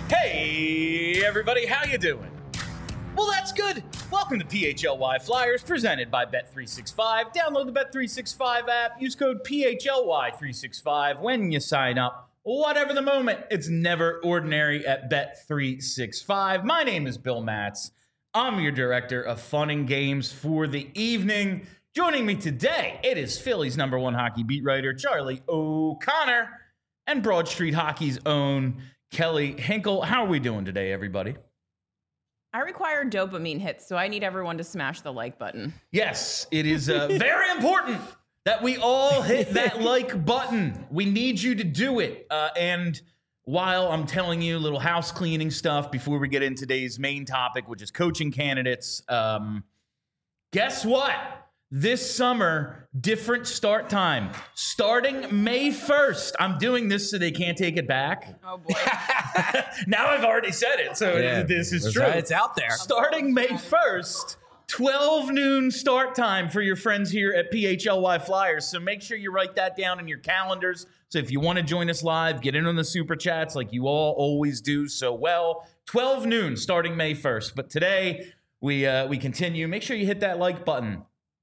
Hey, everybody, how you doing? Well, that's good. Welcome to PHLY Flyers, presented by Bet365. Download the Bet365 app. Use code PHLY365 when you sign up. Whatever the moment, it's never ordinary at Bet365. My name is Bill Matz. I'm your director of fun and games for the evening. Joining me today, it is Philly's #1 hockey beat writer, Charlie O'Connor, and Broad Street Hockey's own Kelly Hinkle. How are we doing today, everybody? I require dopamine hits, so I need everyone to smash the like button. Yes, it is very important that we all hit that like button. We need you to do it. And while I'm telling you little house cleaning stuff before we get into today's main topic, which is coaching candidates, guess what? This summer, different start time. Starting May 1st. I'm doing this so they can't take it back. Oh, boy. Now I've already said it, so this is true. It's out there. Starting May 1st, 12 noon start time for your friends here at PHLY Flyers. So make sure you write that down in your calendars. So if you want to join us live, get in on the super chats like you all always do so well. 12 noon starting May 1st. But today we continue. Make sure you hit that like button.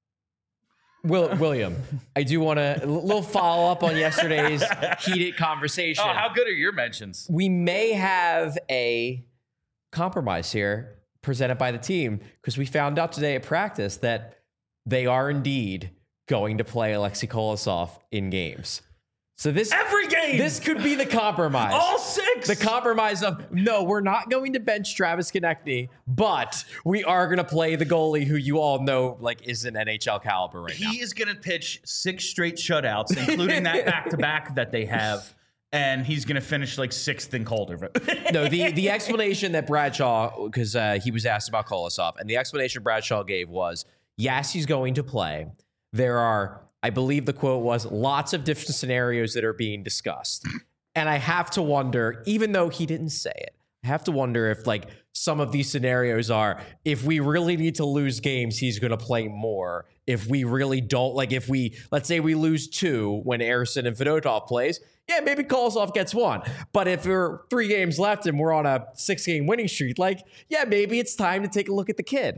William, I do want a little follow up on yesterday's heated conversation. Oh, how good are your mentions? We may have a compromise here presented by the team because we found out today at practice that they are indeed going to play Alexei Kolosov in games. So every game, this could be the compromise. All six. The compromise of, no, we're not going to bench Travis Konecny, but we are going to play the goalie who you all know is an NHL caliber right now. He is going to pitch 6 straight shutouts, including that back-to-back that they have, and he's going to finish 6th in Calder. No, the explanation that Bradshaw, because he was asked about Kolosov, and the explanation Bradshaw gave was, yes, he's going to play. There are, I believe the quote was, lots of different scenarios that are being discussed. And I have to wonder, even though he didn't say it, I have to wonder if some of these scenarios are, if we really need to lose games, he's going to play more. If we really don't, let's say we lose 2 when Ersson and Fedotov plays, yeah, maybe Kolosov gets 1. But if there are 3 games left and we're on a 6-game winning streak, yeah, maybe it's time to take a look at the kid.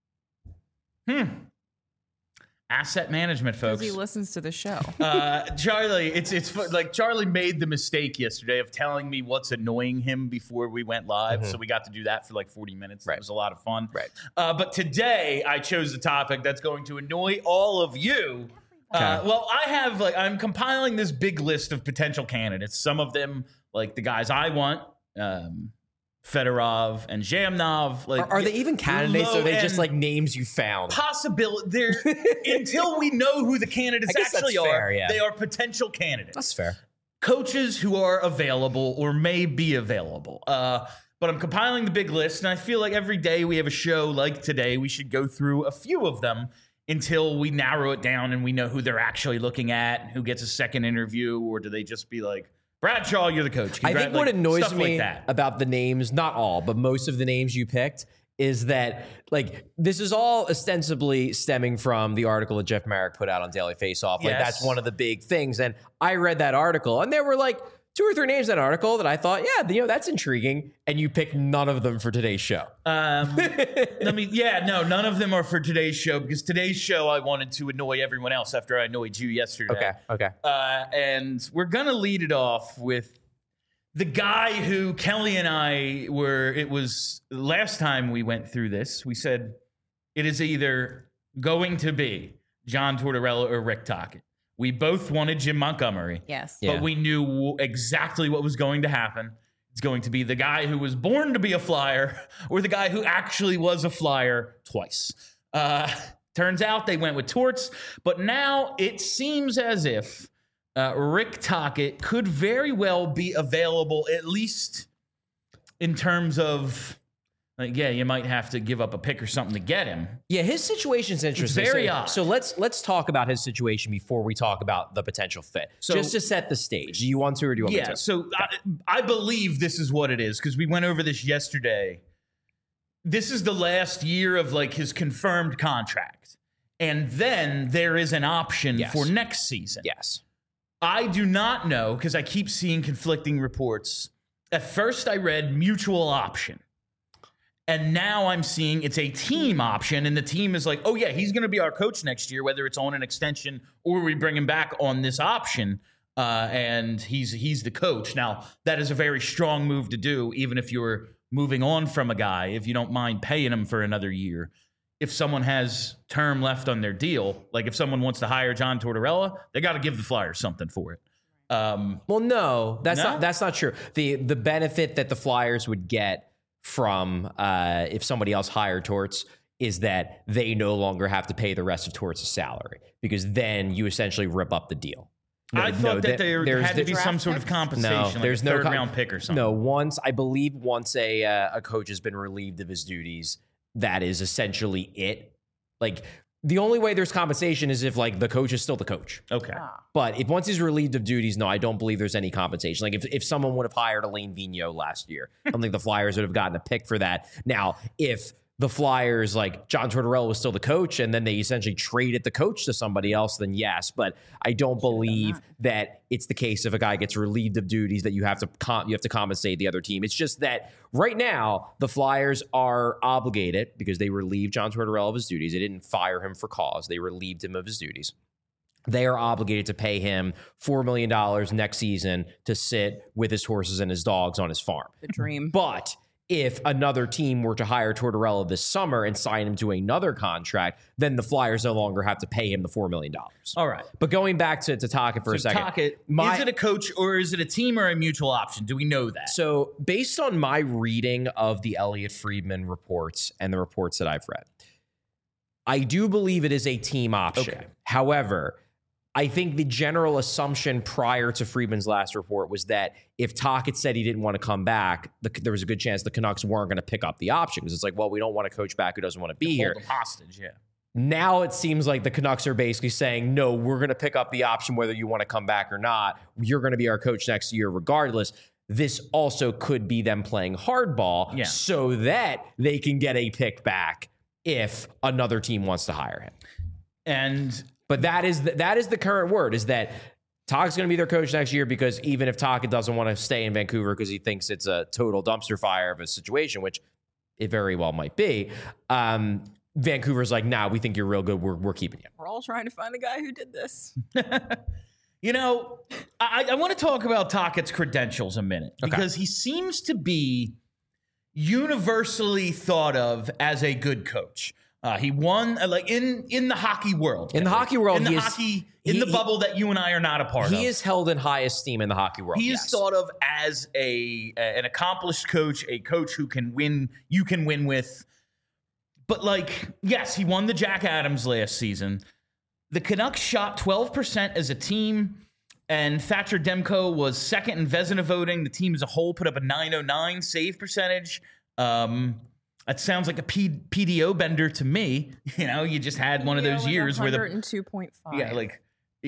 Asset management, folks. He listens to the show. Charlie, it's Charlie made the mistake yesterday of telling me what's annoying him before we went live. So we got to do that for 40 minutes. Right. It was a lot of fun. Right. But today I chose a topic that's going to annoy all of you. Well, I have I'm compiling this big list of potential candidates. Some of them, the guys I want, Fedorov and Zhamnov. Are they even candidates, or are they just names you found? Possibility. Until we know who the candidates actually are, fair, yeah. They are potential candidates. That's fair. Coaches who are available or may be available. But I'm compiling the big list, and I feel like every day we have a show like today, we should go through a few of them until we narrow it down and we know who they're actually looking at, who gets a second interview, or do they just be Bradshaw, you're the coach. I think what annoys me about the names, not all, but most of the names you picked, is that this is all ostensibly stemming from the article that Jeff Marek put out on Daily Faceoff. Yes. That's one of the big things. And I read that article, and there were 2 or 3 names in that article that I thought, yeah, that's intriguing. And you picked none of them for today's show. None of them are for today's show, because today's show I wanted to annoy everyone else after I annoyed you yesterday. Okay. And we're going to lead it off with the guy who Kelly and I it was last time we went through this, we said it is either going to be John Tortorella or Rick Tocchet. We both wanted Jim Montgomery. Yes. But we knew exactly what was going to happen. It's going to be the guy who was born to be a Flyer or the guy who actually was a Flyer twice. Turns out they went with Torts, but now it seems as if Rick Tocchet could very well be available, at least in terms of you might have to give up a pick or something to get him. Yeah, his situation's interesting. It's very odd. So let's talk about his situation before we talk about the potential fit. So, just to set the stage, do you want to or do you want me to? So I believe this is what it is, because we went over this yesterday. This is the last year of his confirmed contract. And then there is an option for next season. Yes. I do not know, because I keep seeing conflicting reports, At first, I read mutual option. And now I'm seeing it's a team option, and the team is like, oh, yeah, he's going to be our coach next year, whether it's on an extension or we bring him back on this option, and he's the coach. Now, that is a very strong move to do, even if you're moving on from a guy, if you don't mind paying him for another year. If someone has term left on their deal, like if someone wants to hire John Tortorella, they got to give the Flyers something for it. Well, no, that's not true. The benefit that the Flyers would get from if somebody else hired Torts is that they no longer have to pay the rest of Torts' salary, because then you essentially rip up the deal. I thought that there had to be some sort of compensation, like there's a third-round pick or something. No, once a coach has been relieved of his duties, that is essentially it. Like, the only way there's compensation is if, like, the coach is still the coach. Okay. But if once he's relieved of duties, no, I don't believe there's any compensation. Like, if someone would have hired Alain Vigneault last year, I don't think the Flyers would have gotten a pick for that. Now, if the Flyers, like, John Tortorella was still the coach and then they essentially traded the coach to somebody else, then yes. But I don't believe that it's the case if a guy gets relieved of duties that you have to compensate the other team. It's just that right now the Flyers are obligated, because they relieved John Tortorella of his duties. They didn't fire him for cause. They relieved him of his duties. They are obligated to pay him $4 million next season to sit with his horses and his dogs on his farm. The dream. But if another team were to hire Tortorella this summer and sign him to another contract, then the Flyers no longer have to pay him the $4 million. All right. But going back to Tocchet for a second. Tocchet, is it a coach or is it a team or a mutual option? Do we know that? So based on my reading of the Elliot Friedman reports and the reports that I've read, I do believe it is a team option. Okay. However, I think the general assumption prior to Friedman's last report was that if Tocchet said he didn't want to come back, there was a good chance the Canucks weren't going to pick up the option, because it's like, well, we don't want a coach back who doesn't want to be here. Hold them hostage, yeah. Now it seems like the Canucks are basically saying, no, we're going to pick up the option whether you want to come back or not. You're going to be our coach next year regardless. This also could be them playing hardball so that they can get a pick back if another team wants to hire him. But that is the current word, is that Tocchet's going to be their coach next year, because even if Tocchet doesn't want to stay in Vancouver because he thinks it's a total dumpster fire of a situation, which it very well might be, Vancouver's like, nah, we think you're real good. We're keeping you. We're all trying to find the guy who did this. You know, I want to talk about Tocchet's credentials a minute, because he seems to be universally thought of as a good coach. He won like in the hockey world. In the hockey world, in the bubble that you and I are not a part of. He is held in high esteem in the hockey world. He is thought of as an accomplished coach, a coach who can win. You can win with. But like, yes, he won the Jack Adams last season. The Canucks shot 12% as a team, and Thatcher Demko was second in Vezina voting. The team as a whole put up a .909 save percentage. That sounds like a PDO bender to me. You know, you just had one of those years where 102.5. Yeah, like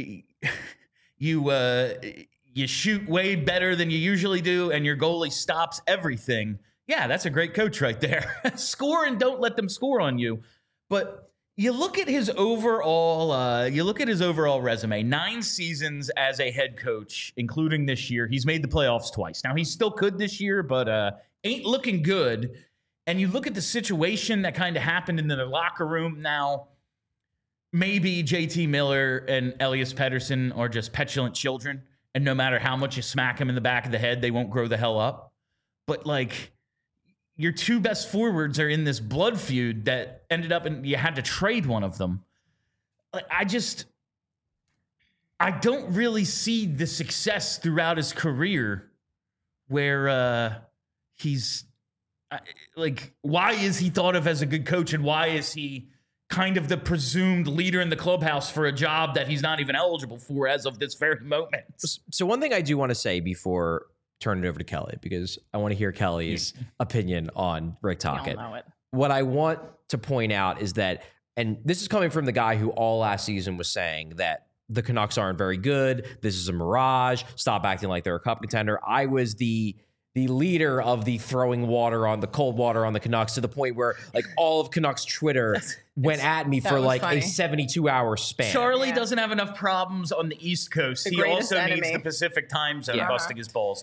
you shoot way better than you usually do, and your goalie stops everything. Yeah, that's a great coach right there. Score and don't let them score on you. But you look at his overall resume. 9 seasons as a head coach, including this year. He's made the playoffs twice. Now he still could this year, but ain't looking good. And you look at the situation that kind of happened in the locker room now. Maybe JT Miller and Elias Pettersson are just petulant children, and no matter how much you smack them in the back of the head, they won't grow the hell up. But like, your 2 best forwards are in this blood feud that ended up and you had to trade one of them. I don't really see the success throughout his career where he's like, why is he thought of as a good coach, and why is he kind of the presumed leader in the clubhouse for a job that he's not even eligible for as of this very moment? So one thing I do want to say before turning it over to Kelly, because I want to hear Kelly's opinion on Rick Tocchet. What I want to point out is that, and this is coming from the guy who all last season was saying that the Canucks aren't very good. This is a mirage. Stop acting like they're a cup contender. I was the leader of the throwing water on the cold water on the Canucks, to the point where like all of Canucks Twitter went at me for like funny. A 72-hour span. Charlie doesn't have enough problems on the East Coast. He also needs the Pacific time zone busting his balls too.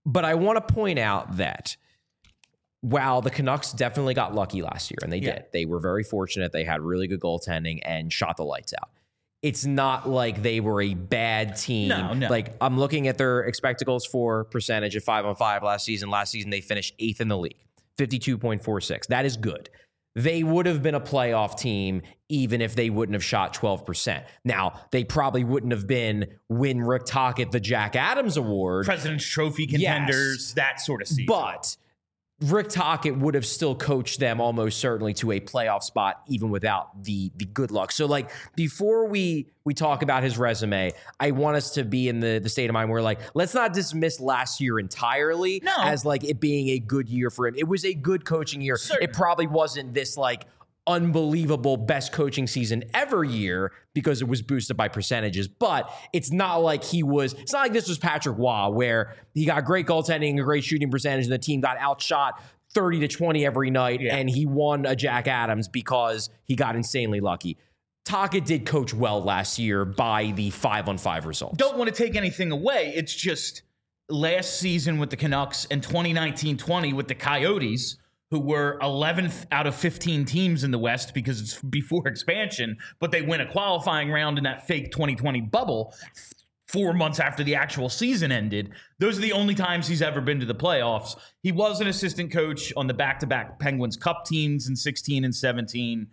But I want to point out that while the Canucks definitely got lucky last year, and they did, they were very fortunate. They had really good goaltending and shot the lights out. It's not like they were a bad team. No. Like, I'm looking at their expected goals for percentage at 5-on-5 last season. Last season, they finished 8th in the league, 52.46. That is good. They would have been a playoff team even if they wouldn't have shot 12%. Now, they probably wouldn't have been win Rick Tocchet the Jack Adams Award. President's Trophy contenders, that sort of season. But Rick Tocchet would have still coached them almost certainly to a playoff spot, even without the good luck. So, like, before we talk about his resume, I want us to be in the state of mind where, like, let's not dismiss last year entirely as, like, it being a good year for him. It was a good coaching year. Certainly. It probably wasn't this, like, unbelievable best coaching season ever year because it was boosted by percentages, but it's not like it's not like this was Patrick Waugh where he got great goaltending and a great shooting percentage and the team got outshot 30-20 every night and he won a Jack Adams because he got insanely lucky. Tocchet did coach well last year by the 5-on-5 results. Don't want to take anything away. It's just last season with the Canucks and 2019-20 with the Coyotes, who were 11th out of 15 teams in the West because it's before expansion, but they win a qualifying round in that fake 2020 bubble 4 months after the actual season ended. Those are the only times he's ever been to the playoffs. He was an assistant coach on the back-to-back Penguins Cup teams in 16 and 17.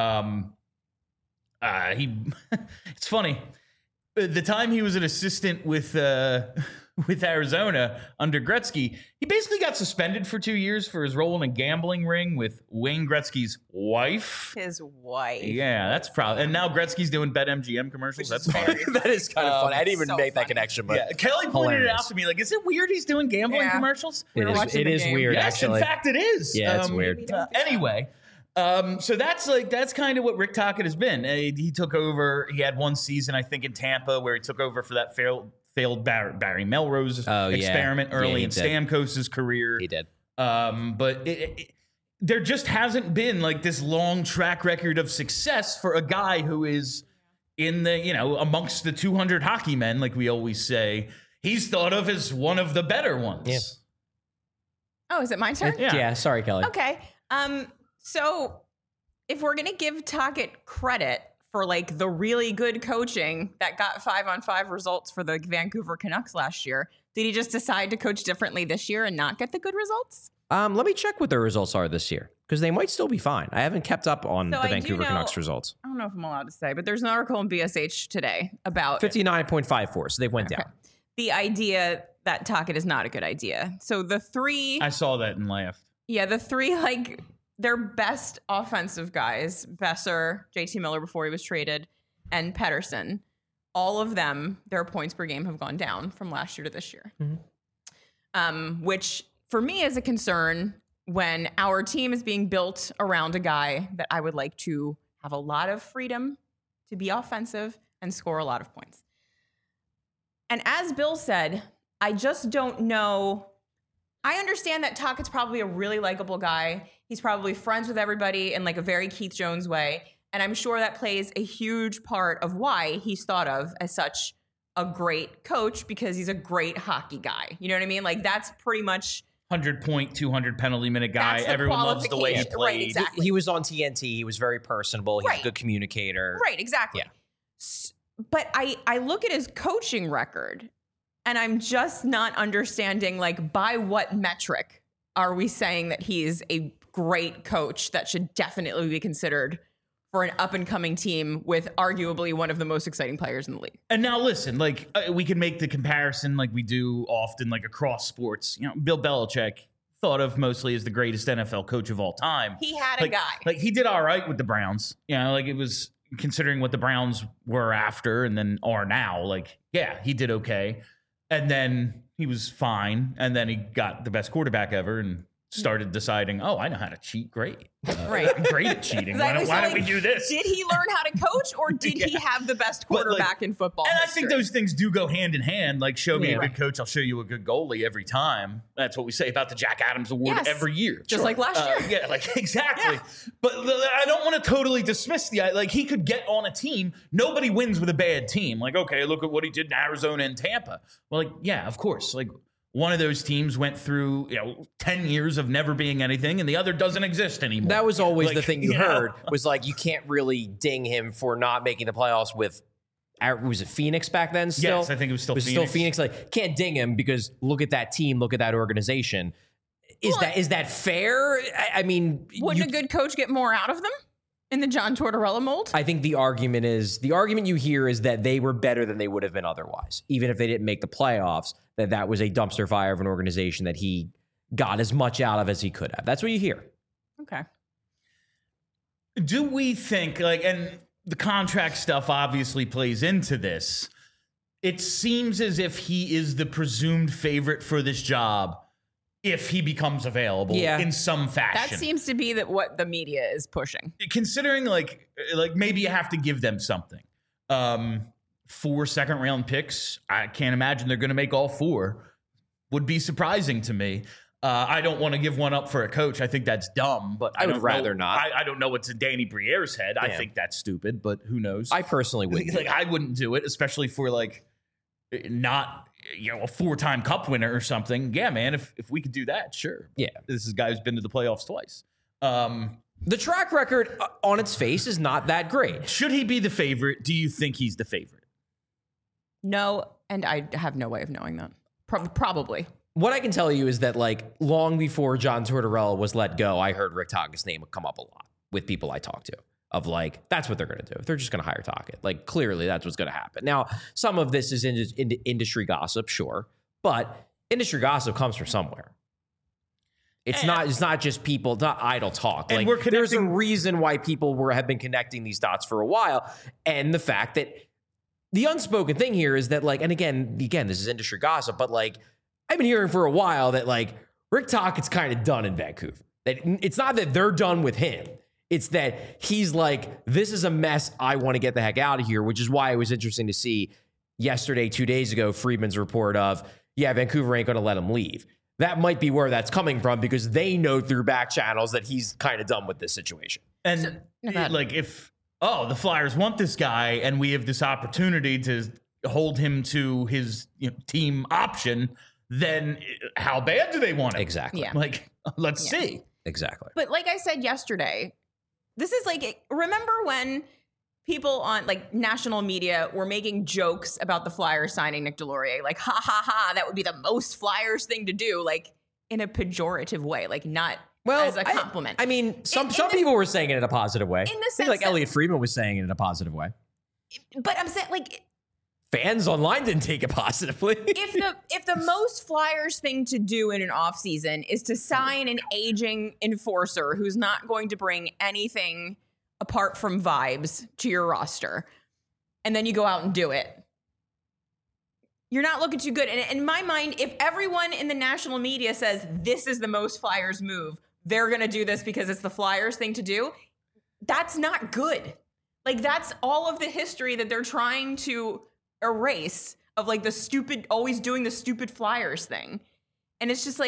It's funny. The time he was an assistant with Arizona under Gretzky, he basically got suspended for 2 years for his role in a gambling ring with Wayne Gretzky's wife. His wife. Yeah, that's probably. And now Gretzky's doing BetMGM commercials. That's funny. That is kind of funny. I didn't even so make that funny. connection, but Kelly pointed hilarious. it out to me. Like, is it weird he's doing gambling commercials? It is weird, Yes, actually. in fact, it is. Yeah, it's weird. Anyway. So that's kind of what Rick Tocchet has been. He took over. He had one season, I think, in Tampa where he took over for that failed Barry Melrose experiment early in Stamkos's career. He did. But there just hasn't been like this long track record of success for a guy who is in the, amongst the 200 hockey men, like we always say. He's thought of as one of the better ones. Yeah. Oh, is it my turn? Yeah. Sorry, Kelly. Okay. So if we're going to give Tocchet credit for like the really good coaching that got 5-on-5 results for the Vancouver Canucks last year, did he just decide to coach differently this year and not get the good results? Let me check what their results are this year because they might still be fine. I haven't kept up on the Vancouver Canucks results. I don't know if I'm allowed to say, but there's an article in BSH today about 59.54, so they went down. The idea that Tocchet is not a good idea. So the three... I saw that and laughed. Yeah, the three, like... their best offensive guys, Besser, JT Miller before he was traded, and Pettersson, all of them, their points per game have gone down from last year to this year. Mm-hmm. Which for me is a concern when our team is being built around a guy that I would like to have a lot of freedom to be offensive and score a lot of points. And as Bill said, I just don't know. I understand that Tocchet's probably a really likable guy. He's probably friends with everybody in like a very Keith Jones way. And I'm sure that plays a huge part of why he's thought of as such a great coach because he's a great hockey guy. You know what I mean? Like that's pretty much 100-point, 200 penalty minute guy. Everyone loves the way he played. Right, exactly. He was on TNT. He was very personable. He's a good communicator. Right, exactly. Yeah. But I look at his coaching record and I'm just not understanding, like, by what metric are we saying that he's a great coach that should definitely be considered for an up-and-coming team with arguably one of the most exciting players in the league? And now listen, like, we can make the comparison like we do often, like, across sports. Bill Belichick, thought of mostly as the greatest NFL coach of all time. He had a guy. Like, he did all right with the Browns. Like, it was, considering what the Browns were after and then are now, like, yeah, he did okay. And then he was fine. And then he got the best quarterback ever and started deciding, oh, I know how to cheat. Great. Right. I'm great at cheating. Exactly. Why don't we do this? Did he learn how to coach or did he have the best quarterback in football And history? I think those things do go hand in hand. Like, show me a good coach, I'll show you a good goalie every time. That's what we say about the Jack Adams Award every year. Just like last year. Yeah, like, exactly. Yeah. But I don't want to totally dismiss like, he could get on a team. Nobody wins with a bad team. Like, okay, look at what he did in Arizona and Tampa. Well, like, yeah, of course. Like, one of those teams went through 10 years of never being anything, and the other doesn't exist anymore. That was always the thing you know? heard was like, you can't really ding him for not making the playoffs with, was it Phoenix back then still? Yes, I think it was still Phoenix. Still Phoenix. Like, can't ding him because look at that team, look at that organization. Is that fair? I mean, wouldn't a good coach get more out of them in the John Tortorella mold? I think the argument you hear is that they were better than they would have been otherwise, even if they didn't make the playoffs. That was a dumpster fire of an organization that he got as much out of as he could have. That's what you hear. Okay. Do we think, and the contract stuff obviously plays into this, it seems as if he is the presumed favorite for this job if he becomes available in some fashion. That seems to be what the media is pushing. Considering like maybe you have to give them something. 4 second-round picks, I can't imagine they're going to make all 4. Would be surprising to me. I don't want to give one up for a coach. I think that's dumb, but I would rather not. I don't know what's in Danny Briere's head. Yeah. I think that's stupid, but who knows? I personally wouldn't. I wouldn't do it, especially for not a 4-time cup winner or something. Yeah, man, if we could do that, sure. Yeah. This is a guy who's been to the playoffs twice. The track record on its face is not that great. Should he be the favorite? Do you think he's the favorite? No, and I have no way of knowing that. Probably. What I can tell you is that long before John Tortorella was let go, I heard Rick Tockett's name come up a lot with people I talked to of that's what they're going to do. They're just going to hire Tocchet. Clearly that's what's going to happen. Now, some of this is into industry gossip, sure, but industry gossip comes from somewhere. It's not just people, it's not idle talk. And there's a reason why people have been connecting these dots for a while. And the fact that the unspoken thing here is that and again, this is industry gossip, but I've been hearing for a while that Rick Tockett's kind of done in Vancouver. That it's not that they're done with him. It's that he's this is a mess. I want to get the heck out of here, which is why it was interesting to see yesterday, 2 days ago, Friedman's report of, Vancouver ain't going to let him leave. That might be where that's coming from because they know through back channels that he's kind of done with this situation. And if the Flyers want this guy and we have this opportunity to hold him to his team option, then how bad do they want it? Exactly. Yeah. Let's see. Exactly. But like I said yesterday, this is remember when people on national media were making jokes about the Flyers signing Nick Deslauriers, ha ha ha, that would be the most Flyers thing to do, in a pejorative way, not as a compliment. I mean, some people were saying it in a positive way. In the sense I think Elliot Friedman was saying it in a positive way. But I'm saying fans online didn't take it positively. if the most Flyers thing to do in an offseason is to sign an aging enforcer who's not going to bring anything apart from vibes to your roster, and then you go out and do it, you're not looking too good. And in my mind, if everyone in the national media says this is the most Flyers move, they're going to do this because it's the Flyers thing to do, that's not good. That's all of the history that they're trying to erase of the stupid, always doing the stupid Flyers thing. And it's just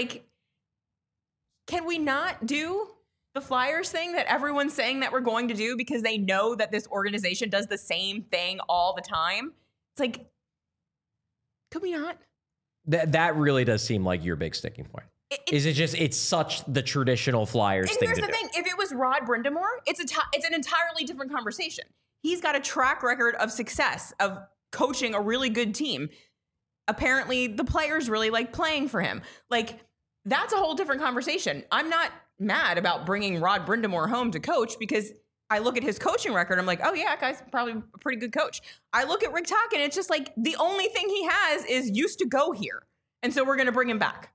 can we not do the Flyers thing that everyone's saying that we're going to do because they know that this organization does the same thing all the time? It's could we not? That really does seem like your big sticking point. It's such the traditional Flyers thing to do. Here's the thing. If it was Rod Brind'Amour, it's an entirely different conversation. He's got a track record of success, of coaching a really good team. Apparently, the players really like playing for him. That's a whole different conversation. I'm not mad about bringing Rod Brind'Amour home to coach because I look at his coaching record. I'm oh yeah, that guy's probably a pretty good coach. I look at Rick Tocchet and it's just the only thing he has is used to go here. And so we're going to bring him back.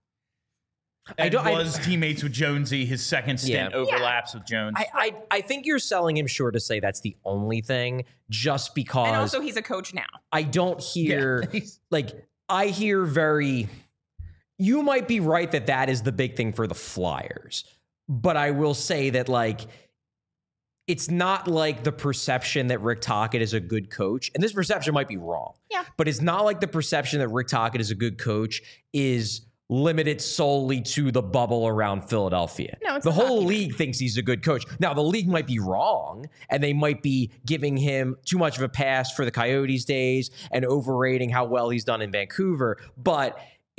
Teammates with Jonesy. His second stint overlaps with Jones. I think you're selling him short to say that's the only thing, just because. And also, he's a coach now. I don't hear I hear very. You might be right that is the big thing for the Flyers, but I will say that it's not the perception that Rick Tocchet is a good coach, and this perception might be wrong. Yeah, but it's not the perception that Rick Tocchet is a good coach is limited solely to the bubble around Philadelphia. No, it's the whole league thinks he's a good coach. Now, the league might be wrong, and they might be giving him too much of a pass for the Coyotes days and overrating how well he's done in Vancouver. But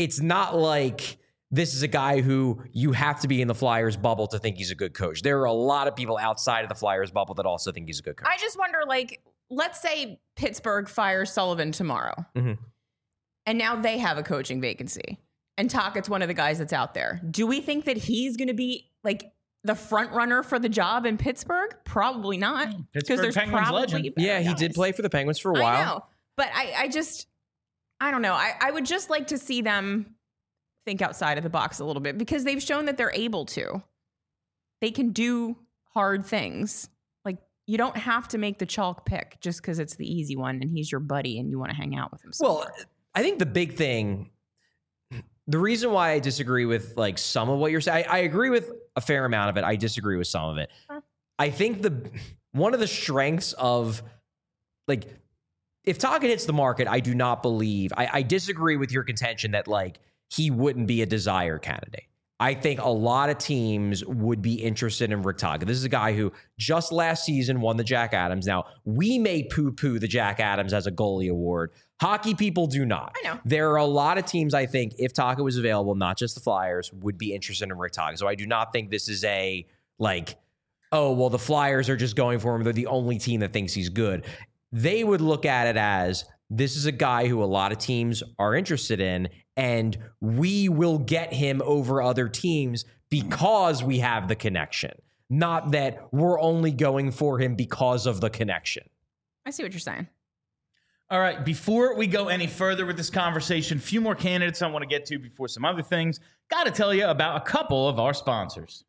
it's not like this is a guy who you have to be in the Flyers bubble to think he's a good coach. There are a lot of people outside of the Flyers bubble that also think he's a good coach. I just wonder, like, let's say Pittsburgh fires Sullivan tomorrow, and now they have a coaching vacancy, and Tocchet's one of the guys that's out there. Do we think that he's going to be, like, the front runner for the job in Pittsburgh? Probably not. Because there's Penguins probably legend. better Yeah, he guys. did play for the Penguins for a while. I know. But I don't know. I would just like to see them think outside of the box a little bit, because they've shown that they're able to. They can do hard things. Like, you don't have to make the chalk pick just because it's the easy one and he's your buddy and you want to hang out with him. Well, I think the big thing, the reason why I disagree with like some of what you're saying, I agree with a fair amount of it. I disagree with some of it. I think one of the strengths of, like, if Tocchet hits the market, I do not believe, I disagree with your contention that like he wouldn't be a desire candidate. I think a lot of teams would be interested in Rick Tocchet. This is a guy who just last season won the Jack Adams. Now, we may poo-poo the Jack Adams as a goalie award. Hockey people do not. I know. There are a lot of teams, I think, if Tocchet was available, not just the Flyers, would be interested in Rick Tocchet. So I do not think this is a, like, oh, well, the Flyers are just going for him. They're the only team that thinks he's good. They would look at it as, this is a guy who a lot of teams are interested in, and we will get him over other teams because we have the connection. Not that we're only going for him because of the connection. I see what you're saying. All right, before we go any further with this conversation, a few more candidates I want to get to before some other things. Got to tell you about a couple of our sponsors.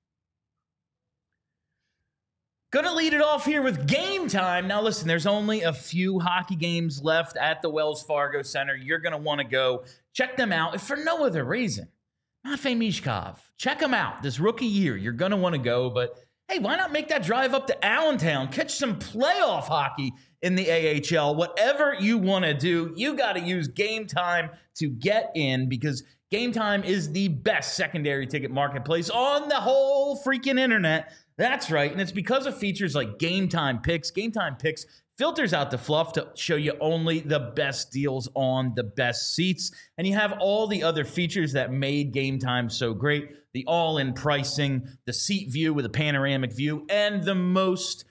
Gonna lead it off here with Game Time. Now listen, there's only a few hockey games left at the Wells Fargo Center. You're gonna want to go check them out, if for no other reason. Matvei Mishkov, check him out this rookie year. You're gonna want to go, but hey, why not make that drive up to Allentown? Catch some playoff hockey in the AHL. Whatever you want to do, you got to use Game Time to get in, because Game Time is the best secondary ticket marketplace on the whole freaking internet. That's right, and it's because of features like Game Time Picks. Game Time Picks filters out the fluff to show you only the best deals on the best seats. And you have all the other features that made Game Time so great. The all-in pricing, the seat view with a panoramic view, and the most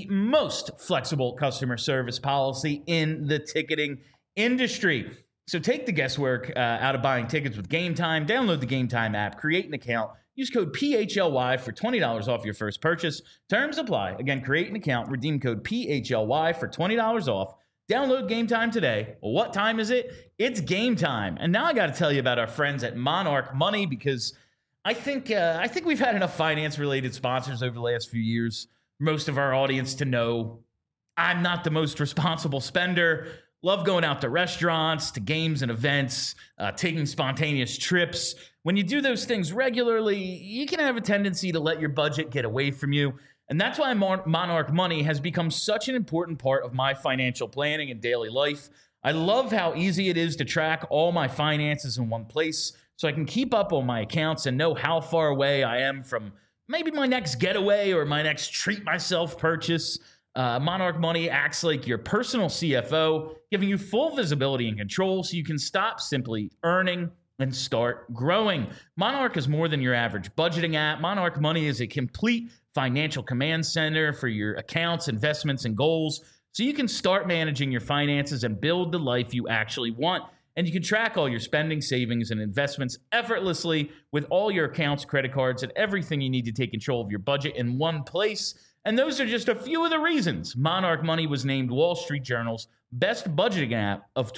flexible customer service policy in the ticketing industry. So take the guesswork out of buying tickets with Game Time. Download the Game Time app, create an account, use code PHLY for $20 off your first purchase. Terms apply. Again, create an account, redeem code PHLY for $20 off. Download Game Time today. Well, what time is it? It's game time. And now I got to tell you about our friends at Monarch Money, because I think we've had enough finance-related sponsors over the last few years. Most of our audience to know I'm not the most responsible spender. Love going out to restaurants, to games and events, taking spontaneous trips. When you do those things regularly, you can have a tendency to let your budget get away from you. And that's why Monarch Money has become such an important part of my financial planning and daily life. I love how easy it is to track all my finances in one place, so I can keep up on my accounts and know how far away I am from maybe my next getaway or my next treat myself purchase. Monarch Money acts like your personal CFO, giving you full visibility and control so you can stop simply earning and start growing. Monarch is more than your average budgeting app. Monarch Money is a complete financial command center for your accounts, investments, and goals, so you can start managing your finances and build the life you actually want. And you can track all your spending, savings, and investments effortlessly with all your accounts, credit cards, and everything you need to take control of your budget in one place. And those are just a few of the reasons Monarch Money was named Wall Street Journal's best budgeting app of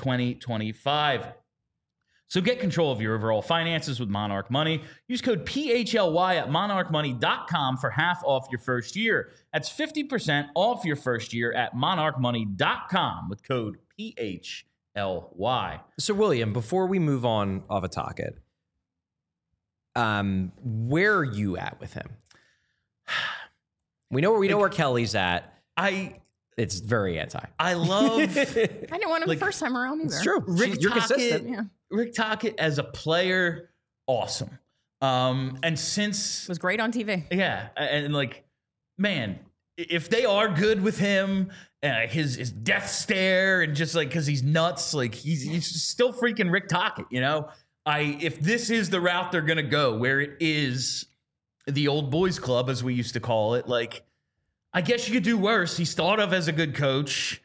2025. So get control of your overall finances with Monarch Money. Use code PHLY at monarchmoney.com for half off your first year. That's 50% off your first year at monarchmoney.com with code PHLY. So, William, before we move on of a Tocchet, where are you at with him? We know where Kelly's at. It's very anti. I love. I didn't want him the first time around either. It's true. You're consistent. Yeah. Rick Tocchet as a player, awesome. And since Was great on TV. yeah, and like, man, if they are good with him, his death stare, and just like because he's nuts, like he's still freaking Rick Tocchet, you know. if this is the route they're gonna go, where it is the old boys club, as we used to call it, like, I guess you could do worse. He's thought of as a good coach.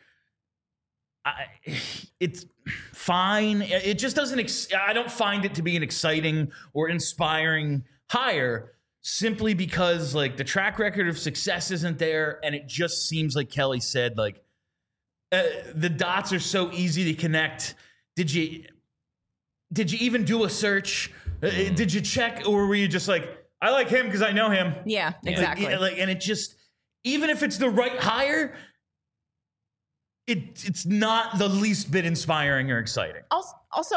It's fine. It just doesn't. I don't find it to be an exciting or inspiring hire, simply because like the track record of success isn't there, and it just seems like Kelly said, like the dots are so easy to connect. Did you even do a search? Did you check, or were you just like, I like him because I know him? Yeah, exactly. And it just, even if it's the right hire, it's not the least bit inspiring or exciting. Also,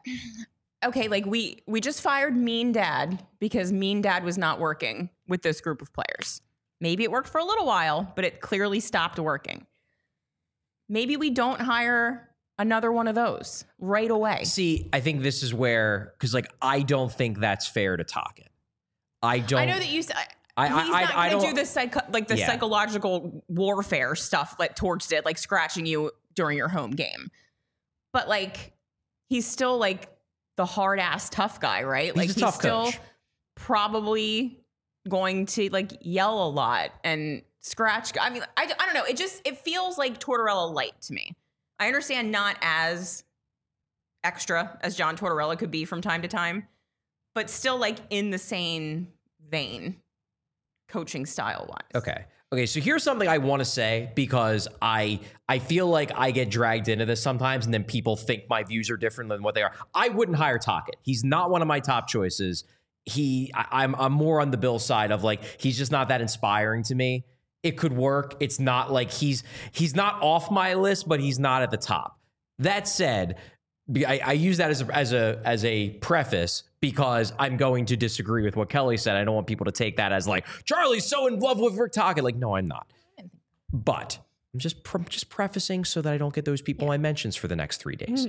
like we just fired Mean Dad because Mean Dad was not working with this group of players. Maybe it worked for a little while, but it clearly stopped working. Maybe we don't hire another one of those right away. See, I think this is where, because like I don't think that's fair to Tocchet. I know that you said. He's not going to do the psychological warfare stuff like towards it, like scratching you during your home game. But like, he's still like the hard ass tough guy, right? Like he's still coach. Probably going to like yell a lot and scratch. I mean, I don't know. It feels like Tortorella light to me. I understand not as extra as John Tortorella could be from time to time, but still like in the same vein. Coaching style wise. Okay. So here's something I want to say, because I feel like I get dragged into this sometimes, and then people think my views are different than what they are. I wouldn't hire Tocchet. He's not one of my top choices. I'm more on the Bill side of like, he's just not that inspiring to me. It could work. It's not like he's not off my list, but he's not at the top. That said, I use that as a preface, because I'm going to disagree with what Kelly said. I don't want people to take that as like, Charlie's so in love with Rick Tocchet. Like, no, I'm not. But I'm just prefacing so that I don't get those people my mentions for the next 3 days.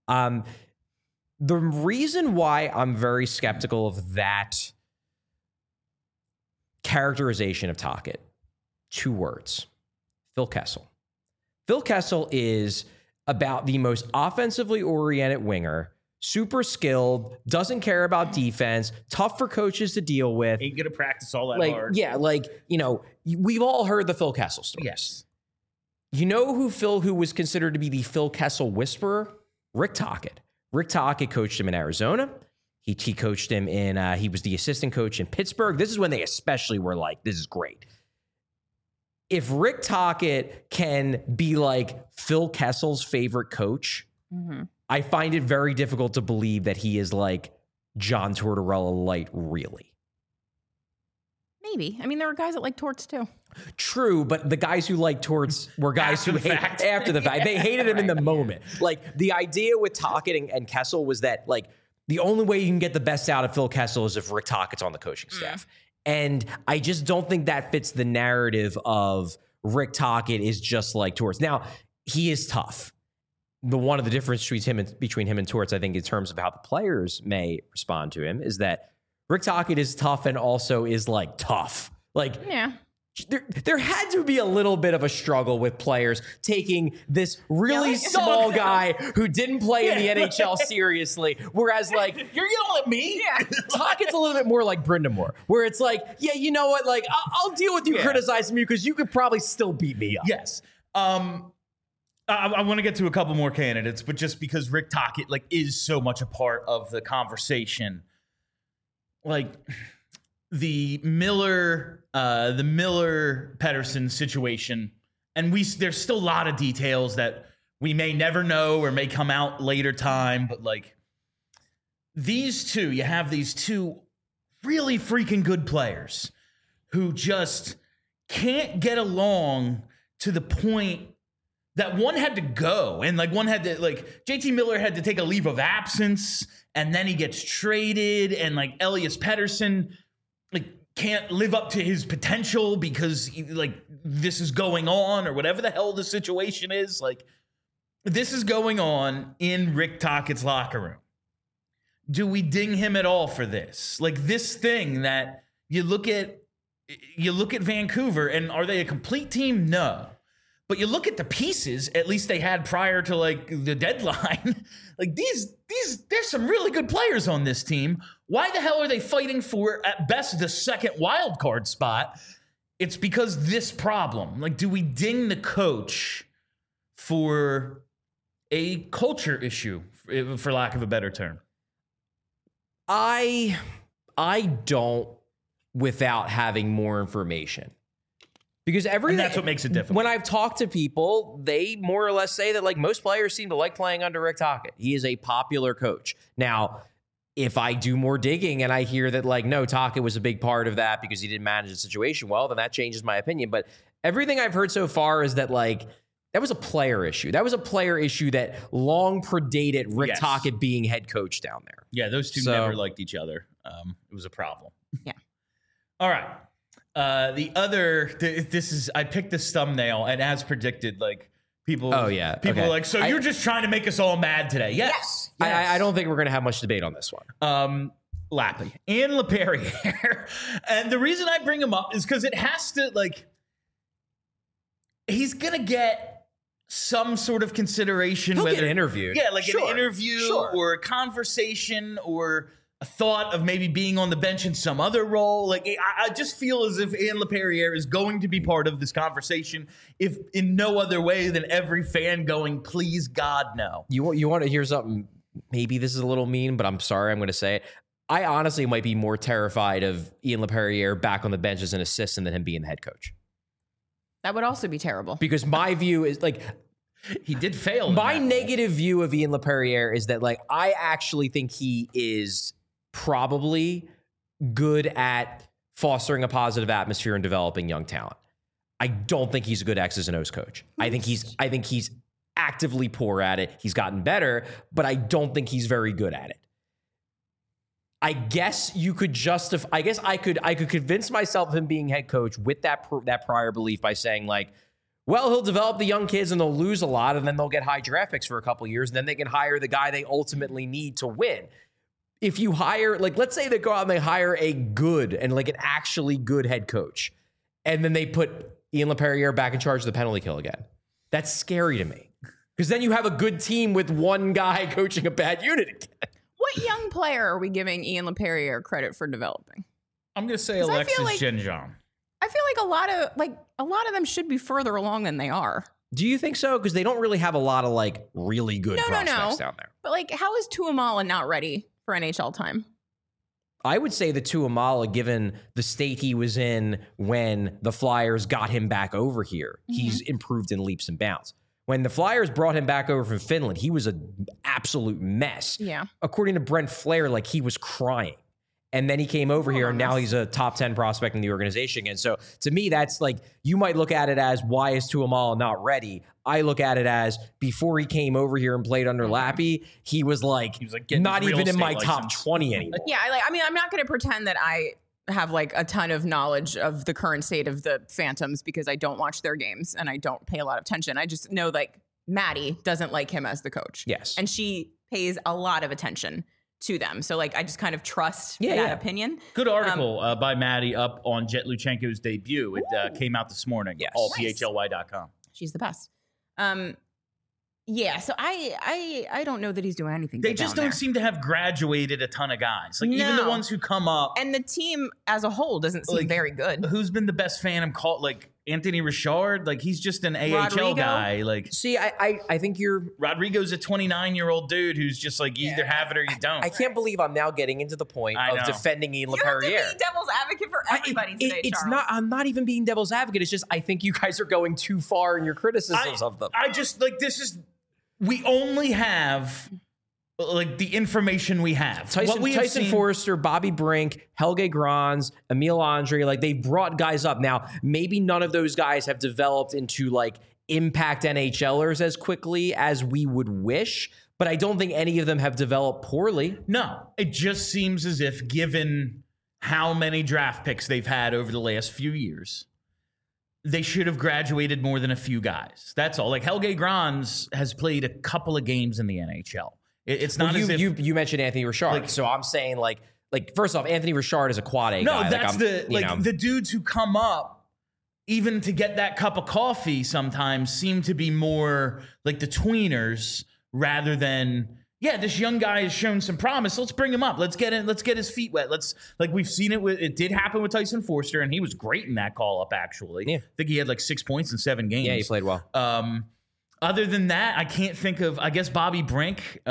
The reason why I'm very skeptical of that characterization of Tocchet, 2 words: Phil Kessel. Phil Kessel is about the most offensively oriented winger, super skilled, doesn't care about defense, tough for coaches to deal with. Ain't gonna practice all that hard. Yeah, like, you know, we've all heard the Phil Kessel stories. Yes. You know who was considered to be the Phil Kessel whisperer? Rick Tocchet. Rick Tocchet coached him in Arizona. He coached him in, he was the assistant coach in Pittsburgh. This is when they especially were like, this is great. If Rick Tocchet can be like Phil Kessel's favorite coach, I find it very difficult to believe that he is like John Tortorella light, really. Maybe. I mean, there were guys that like Torts too. True, but the guys who like Torts were guys who hate after the fact. They hated him in the moment. Like, the idea with Tocchet and Kessel was that, like, the only way you can get the best out of Phil Kessel is if Rick Tocchett's on the coaching staff. And I just don't think that fits the narrative of Rick Tocchet is just like Torts. Now, he is tough. One of the difference between him and Torts, I think, in terms of how the players may respond to him, is that Rick Tocchet is tough and also is like tough. Like, yeah. There had to be a little bit of a struggle with players taking this really small guy who didn't play in the NHL seriously. Whereas, like, you're yelling at me? Yeah. Tocchett's a little bit more like Brind'Amour, where it's like, yeah, you know what? Like, I'll deal with you criticizing me because you could probably still beat me up. Yes. I want to get to a couple more candidates, but just because Rick Tocchet, like, is so much a part of the conversation, like, the Miller Pettersson situation, and there's still a lot of details that we may never know or may come out later time, but like, you have these 2 really freaking good players who just can't get along to the point that one had to go, and like one had to, like, JT Miller had to take a leave of absence, and then he gets traded, and like Elias Pettersson, like, can't live up to his potential because like this is going on, or whatever the hell the situation is. Like, this is going on in Rick Tocchet's locker room. Do we ding him at all for this? Like, this thing that you look at Vancouver, and are they a complete team? No. But you look at the pieces, at least they had prior to like the deadline. Like these, there's some really good players on this team. Why the hell are they fighting for at best the second wild card spot? It's because this problem. Like, do we ding the coach for a culture issue, for lack of a better term? I don't, without having more information. Because everything, and that's what makes it difficult. When I've talked to people, they more or less say that like most players seem to like playing under Rick Tocchet. He is a popular coach. Now, if I do more digging and I hear that like, no, Tocchet was a big part of that because he didn't manage the situation well, then that changes my opinion. But everything I've heard so far is that like, that was a player issue. That was a player issue that long predated Rick Tocchet being head coach down there. Yeah, those two never liked each other. It was a problem. Yeah. All right. I picked this thumbnail, and as predicted, like people. Oh yeah. People are like, so you're just trying to make us all mad today? Yes. I don't think we're going to have much debate on this one. Lappy and LePerriere, and the reason I bring him up is because it has to like. He's gonna get some sort of consideration. He'll whether get interviewed. Yeah, like an interview or a conversation or a thought of maybe being on the bench in some other role. Like, I just feel as if Ian LePerriere is going to be part of this conversation, if in no other way than every fan going, please, God, no. You want to hear something? Maybe this is a little mean, but I'm sorry, I'm going to say it. I honestly might be more terrified of Ian LePerriere back on the bench as an assistant than him being the head coach. That would also be terrible. Because my view is like, he did fail. My negative view of Ian LePerriere is that like, I actually think he is probably good at fostering a positive atmosphere and developing young talent. I don't think he's a good X's and O's coach. I think he's actively poor at it. He's gotten better, but I don't think he's very good at it. I guess you could justify. I guess I could convince myself of him being head coach with that prior belief by saying like, well, he'll develop the young kids and they'll lose a lot, and then they'll get high draft picks for a couple of years, and then they can hire the guy they ultimately need to win. If you hire, like, let's say they go out and they hire a good and like an actually good head coach, and then they put Ian LePerriere back in charge of the penalty kill again. That's scary to me, because then you have a good team with one guy coaching a bad unit again. What young player are we giving Ian LePerriere credit for developing? I'm going to say Alexis Genjon. I feel like a lot of them should be further along than they are. Do you think so? Because they don't really have a lot of like really good prospects down there. But like, how is Tuamala not ready for NHL time? I would say that Tuamala, given the state he was in when the Flyers got him back over here, he's improved in leaps and bounds. When the Flyers brought him back over from Finland, he was an absolute mess. Yeah. According to Brent Flair, like he was crying. And then he came over here, and now he's a top 10 prospect in the organization again. So to me, that's like, you might look at it as, why is Tuamala not ready? I look at it as, before he came over here and played under Lappy, he was like not even in my top 20 anymore. Yeah, I'm not going to pretend that I have like a ton of knowledge of the current state of the Phantoms because I don't watch their games and I don't pay a lot of attention. I just know like Maddie doesn't like him as the coach. Yes. And she pays a lot of attention to them. So like, I just kind of trust that opinion. Good article by Maddie up on Jet Luchenko's debut. It came out this morning. Yes. Allphly.com. She's the best. Yeah, so I don't know that he's doing anything. They just don't seem to have graduated a ton of guys. Like even the ones who come up, and the team as a whole doesn't seem very good. Who's been the best Phantom called? Like Anthony Richard. Like he's just an AHL guy. Like see, I think Rodrigo's a 29-year-old dude who's just like you either have it or you don't. I can't believe I'm now getting into the point of defending Ian LePerriere. You have to be devil's advocate for everybody today, it's Charles. not. I'm not even being devil's advocate. It's just I think you guys are going too far in your criticisms of them. I just like this is. We only have like the information we have. Tyson Forrester, Bobby Brink, Helge Grans, Emil Andre, like they brought guys up. Now, maybe none of those guys have developed into like impact NHLers as quickly as we would wish, but I don't think any of them have developed poorly. No, it just seems as if given how many draft picks they've had over the last few years, they should have graduated more than a few guys. That's all. Like Helge Grans has played a couple of games in the NHL. It's not as if you mentioned Anthony Richard, so I'm saying like first off, Anthony Richard is a quad A guy. No, that's the dudes who come up. even to get that cup of coffee sometimes seem to be more like the tweeners rather than, yeah, this young guy has shown some promise. Let's bring him up. Let's get his feet wet. We've seen it did happen with Tyson Forster, and he was great in that call up, actually. Yeah. I think he had like 6 points in 7 games. Yeah, he played well. Other than that, I can't think of, I guess, Bobby Brink.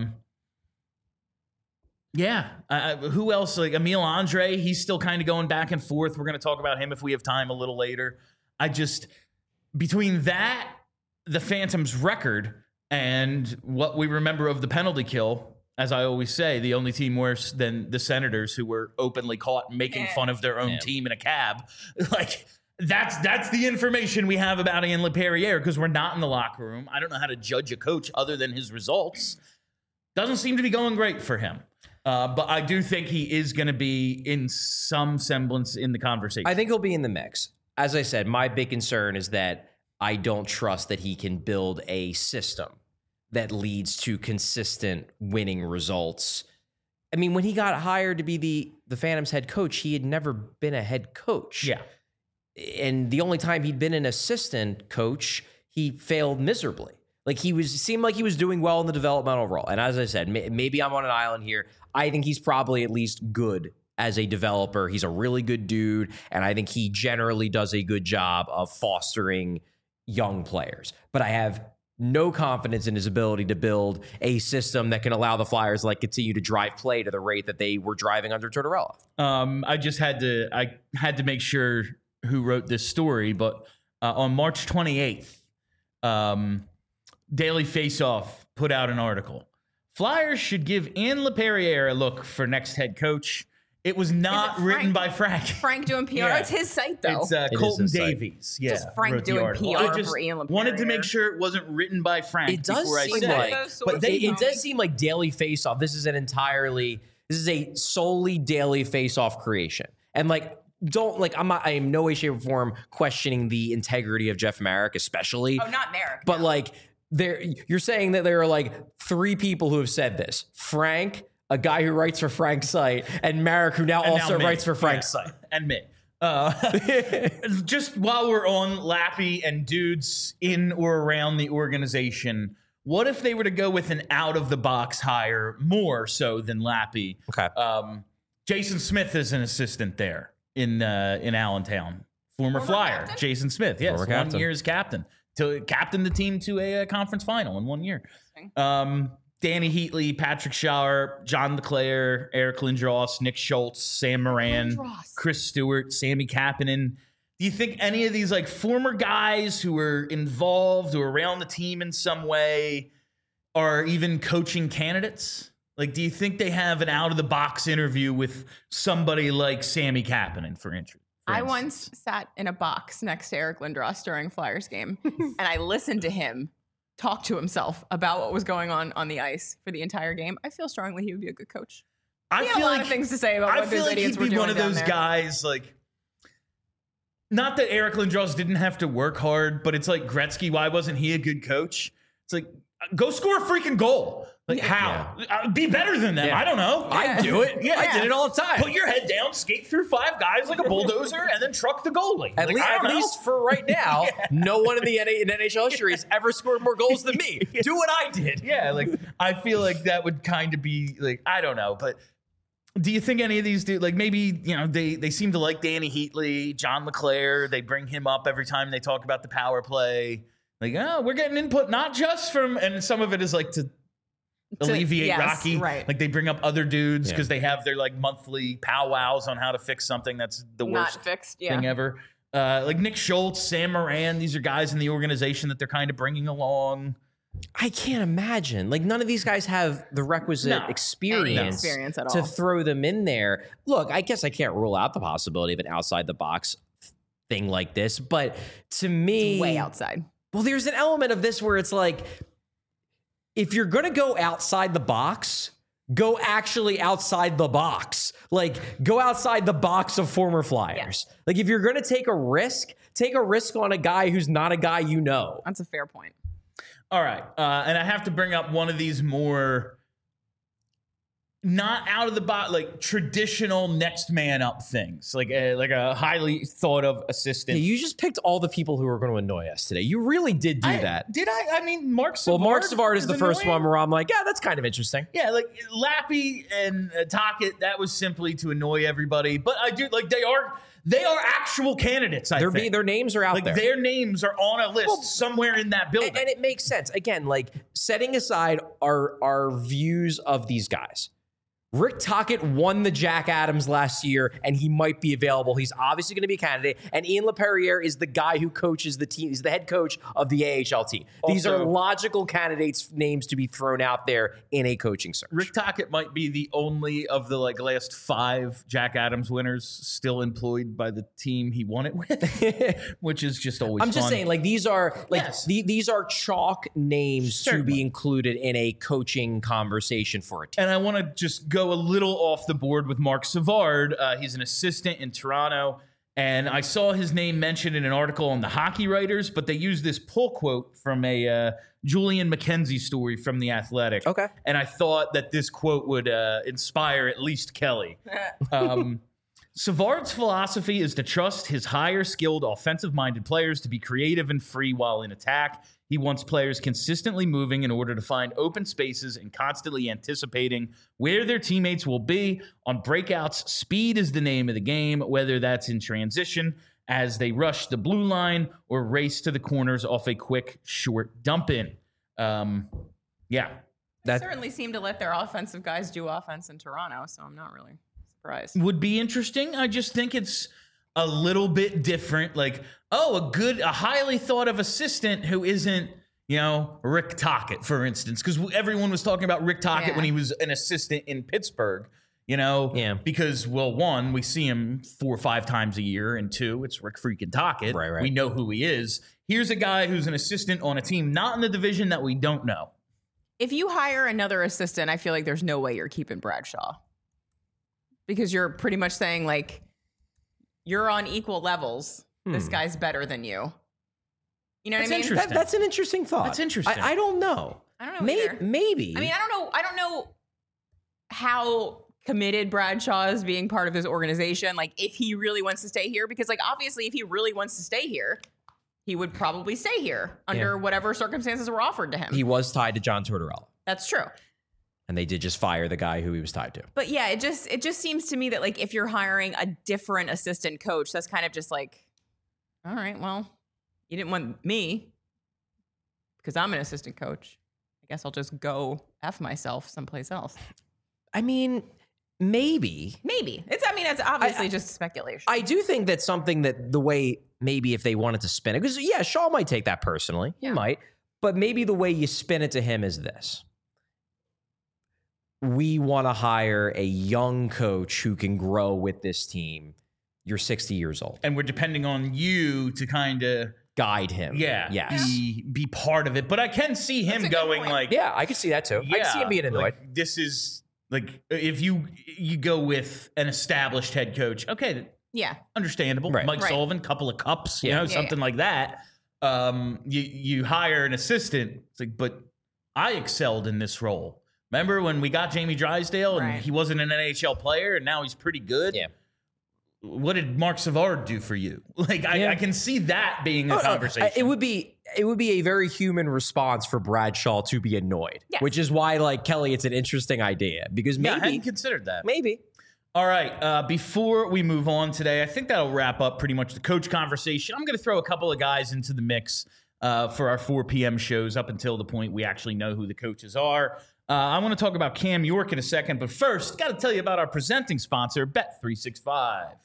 Who else? Like Emil Andre, he's still kind of going back and forth. We're going to talk about him if we have time a little later. Between that, the Phantoms' record, and what we remember of the penalty kill, as I always say, the only team worse than the Senators, who were openly caught making fun of their own team in a cab. Like, that's the information we have about Ian LePerriere, because we're not in the locker room. I don't know how to judge a coach other than his results. Doesn't seem to be going great for him. But I do think he is going to be in some semblance in the conversation. I think he'll be in the mix. As I said, my big concern is that I don't trust that he can build a system that leads to consistent winning results. I mean, when he got hired to be the Phantoms head coach, he had never been a head coach. Yeah. And the only time he'd been an assistant coach, he failed miserably. Like seemed like he was doing well in the developmental role. And as I said, maybe I'm on an island here. I think he's probably at least good as a developer. He's a really good dude. And I think he generally does a good job of fostering young players. But I have no confidence in his ability to build a system that can allow the Flyers to continue to drive play to the rate that they were driving under Tortorella. I had to make sure who wrote this story, but on March 28th, Daily Faceoff put out an article. Flyers should give Ian LePerriere a look for next head coach. It was not written by Frank. Frank doing PR. Yeah. It's his site, though. It's Colton Davies. Yeah, just Frank doing PR for Ian LePerriere. Wanted to make sure it wasn't written by Frank. It does seem it does seem like Daily Faceoff. This is a solely Daily Faceoff creation. And I am no way, shape, or form questioning the integrity of Jeff Marek, especially. Oh, not Marek. But you're saying that there are 3 people who have said this: Frank, a guy who writes for Frank's site, and Marek, who now writes for Frank's site, and me. Just while we're on Lappy and dudes in or around the organization, what if they were to go with an out-of-the-box hire more so than Lappy? Okay. Jason Smith is an assistant there in Allentown. Former Flyer, captain? Jason Smith. Yes, Former captain. 1 year as captain. To captain the team to a conference final in 1 year. Danny Heatley, Patrick Schauer, John LeClaire, Eric Lindros, Nick Schultz, Sam Moran, Chris Stewart, Sammy Kapanen. Do you think any of these former guys who were involved or around the team in some way are even coaching candidates? Do you think they have an out-of-the-box interview with somebody like Sammy Kapanen, for instance? I once sat in a box next to Eric Lindros during Flyers game, and I listened to him talk to himself about what was going on the ice for the entire game. I feel strongly he would be a good coach. He had a lot of things to say about what those idiots were doing. I feel like he'd be one of those guys, not that Eric Lindros didn't have to work hard, but it's like Gretzky. Why wasn't he a good coach? It's go score a freaking goal. How? Yeah. Be better than them. Yeah. I don't know. I do it. Yeah, I did it all the time. Put your head down, skate through 5 guys like a bulldozer, and then truck the goalie. At least for right now, no one in the NHL history has ever scored more goals than me. Do what I did. Yeah, I feel like that would kind of be I don't know, but do you think any of these maybe they seem to like Danny Heatley, John LeClaire? They bring him up every time they talk about the power play. We're getting input not just from, and some of it is to alleviate Rocky. Right. They bring up other dudes because they have their monthly powwows on how to fix something that's the worst thing ever. Nick Schultz, Sam Moran, these are guys in the organization that they're kind of bringing along. I can't imagine. None of these guys have the requisite experience at all to throw them in there. Look, I guess I can't rule out the possibility of an outside the box thing like this, but to me, it's way outside. Well, there's an element of this where it's if you're going to go outside the box, go actually outside the box. Go outside the box of former Flyers. Yeah. If you're going to take a risk on a guy who's not a guy you know. That's a fair point. All right. And I have to bring up one of these more not out of the box, like traditional next man up things, like a highly thought of assistant. Yeah, you just picked all the people who are going to annoy us today. You really did do that. Did I? I mean, Mark Savard. Well, Mark Savard is the first annoying. one where I'm like, yeah, that's kind of interesting. Yeah, like Lappy and Tocchet, that was simply to annoy everybody. But I do like they are actual candidates. I think Their names are out like there. their names are on a list somewhere in that building. And it makes sense. Again, like setting aside our views of these guys. Rick Tocchet won the Jack Adams last year, and he might be available. He's obviously going to be a candidate. And Ian LaPerriere is the guy who coaches the team. He's the head coach of the AHL team. These are logical candidates' names to be thrown out there in a coaching search. Rick Tocchet might be the only of the last 5 Jack Adams winners still employed by the team he won it with, which is just always. I'm just saying, like these are these are chalk names Certainly. to be included in a coaching conversation for a team. And I want to just go a little off the board with Mark Savard. He's an assistant in Toronto, and I saw his name mentioned in an article on the Hockey Writers, but they used this pull quote from a Julian McKenzie story from The Athletic. Okay. And I thought that this quote would inspire at least Kelly. Savard's philosophy is to trust his higher skilled offensive-minded players to be creative and free while in attack. He wants players consistently moving in order to find open spaces and constantly anticipating where their teammates will be. On breakouts, speed is the name of the game, whether that's in transition as they rush the blue line or race to the corners off a quick, short dump-in. Yeah. They certainly seem to let their offensive guys do offense in Toronto, so I'm not really surprised. Would be interesting. I just think it's a little bit different. Like, a highly thought of assistant who isn't, Rick Tocchet, for instance, because everyone was talking about Rick Tocchet when he was an assistant in Pittsburgh, because, well, 1, we see him 4 or 5 times a year, and 2, it's Rick freaking Tocchet. Right. We know who he is. Here's a guy who's an assistant on a team not in the division that we don't know. If you hire another assistant, I feel like there's no way you're keeping Bradshaw. Because you're pretty much saying, like, you're on equal levels. This guy's better than you. You know what I mean? Interesting. That's an interesting thought. That's interesting. I don't know. I don't know either. Maybe. I mean, I don't know how committed Bradshaw is being part of this organization. Like, if he really wants to stay here, because, like, obviously, if he really wants to stay here, he would probably stay here under whatever circumstances were offered to him. He was tied to John Tortorella. That's true. And they did just fire the guy who he was tied to. But yeah, it just seems to me that, like, if you're hiring a different assistant coach, that's kind of just like, all right, well, you didn't want me because I'm an assistant coach. I guess I'll just go F myself someplace else. I mean, maybe. It's obviously just speculation. I do think that's something that the way maybe if they wanted to spin it, because Shaw might take that personally. He might. But maybe the way you spin it to him is this. We want to hire a young coach who can grow with this team. You're 60 years old. And we're depending on you to kind of guide him. Be part of it. But I can see him going like, I can see that too. I can see him being annoyed. Like, this is like, if you go with an established head coach, okay, understandable. Right. Mike Sullivan, couple of cups, something like that. You hire an assistant. It's like, but I excelled in this role. Remember when we got Jamie Drysdale and he wasn't an NHL player and now he's pretty good? Yeah. What did Mark Savard do for you? Like, I can see that being a conversation. It would be a very human response for Bradshaw to be annoyed, which is why, like, Kelly, it's an interesting idea because maybe I hadn't considered that. Maybe. All right. Before we move on today, I think that'll wrap up pretty much the coach conversation. I'm going to throw a couple of guys into the mix for our 4 p.m. shows up until the point we actually know who the coaches are. I want to talk about Cam York in a second, but first, got to tell you about our presenting sponsor, Bet365.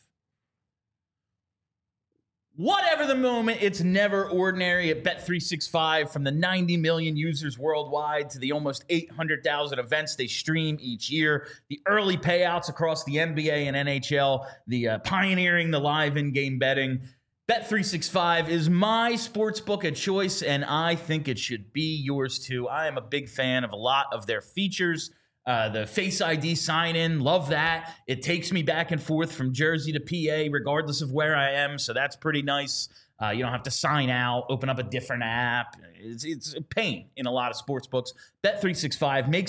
Whatever the moment, it's never ordinary at Bet365. From the 90 million users worldwide to the almost 800,000 events they stream each year, the early payouts across the NBA and NHL, the pioneering the live in-game betting. Bet365 is my sportsbook of choice, and I think it should be yours too. I am a big fan of a lot of their features. The Face ID sign-in, love that. It takes me back and forth from Jersey to PA, regardless of where I am, so that's pretty nice. You don't have to sign out, open up a different app. It's a pain in a lot of sports books. Bet365 makes it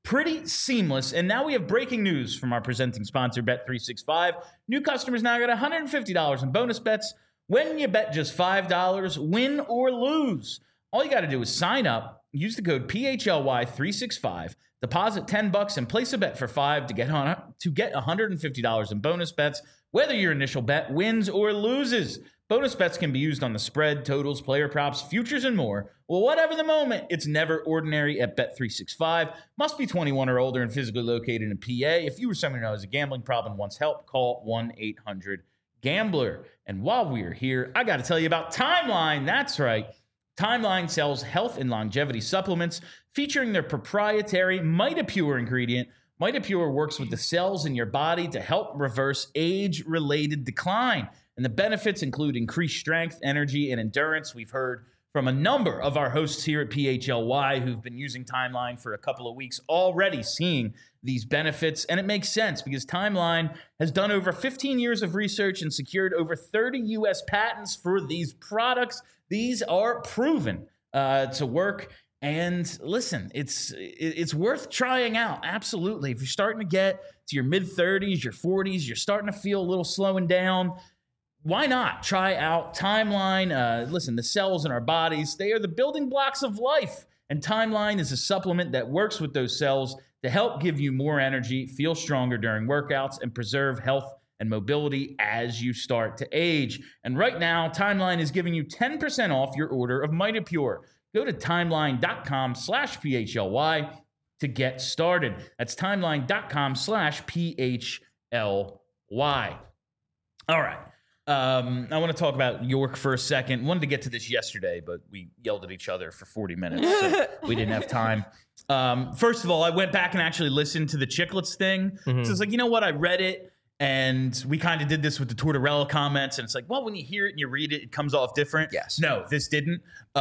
pretty seamless. And now we have breaking news from our presenting sponsor, Bet365. New customers now get $150 in bonus bets when you bet just $5, win or lose. All you got to do is sign up, use the code PHLY365, deposit $10 and place a bet for $5 to get $150 in bonus bets, whether your initial bet wins or loses. Bonus bets can be used on the spread, totals, player props, futures, and more. Well, whatever the moment, it's never ordinary at Bet365. Must be 21 or older and physically located in PA. If you or someone who has a gambling problem and wants help, call 1-800-GAMBLER. And while we're here, I got to tell you about Timeline. That's right. Timeline sells health and longevity supplements featuring their proprietary MitoPure ingredient. MitoPure works with the cells in your body to help reverse age-related decline. And the benefits include increased strength, energy, and endurance. We've heard from a number of our hosts here at PHLY who've been using Timeline for a couple of weeks already, seeing these benefits. And it makes sense because Timeline has done over 15 years of research and secured over 30 U.S. patents for these products. These are proven to work. And listen, it's worth trying out. Absolutely. If you're starting to get to your mid-30s, your 40s, you're starting to feel a little slowing down, why not try out Timeline? Listen, the cells in our bodies, they are the building blocks of life. And Timeline is a supplement that works with those cells to help give you more energy, feel stronger during workouts, and preserve health and mobility as you start to age. And right now, Timeline is giving you 10% off your order of MitoPure. Go to timeline.com/PHLY to get started. That's timeline.com/PHLY. All right. I want to talk about York for a second. Wanted to get to this yesterday, but we yelled at each other for 40 minutes, so we didn't have time. First of all, I went back and actually listened to the Chicklets thing. So it's like, you know what? I read it, and we kind of did this with the Tortorella comments, and it's like, well, when you hear it and you read it, it comes off different. Yes. No, this didn't.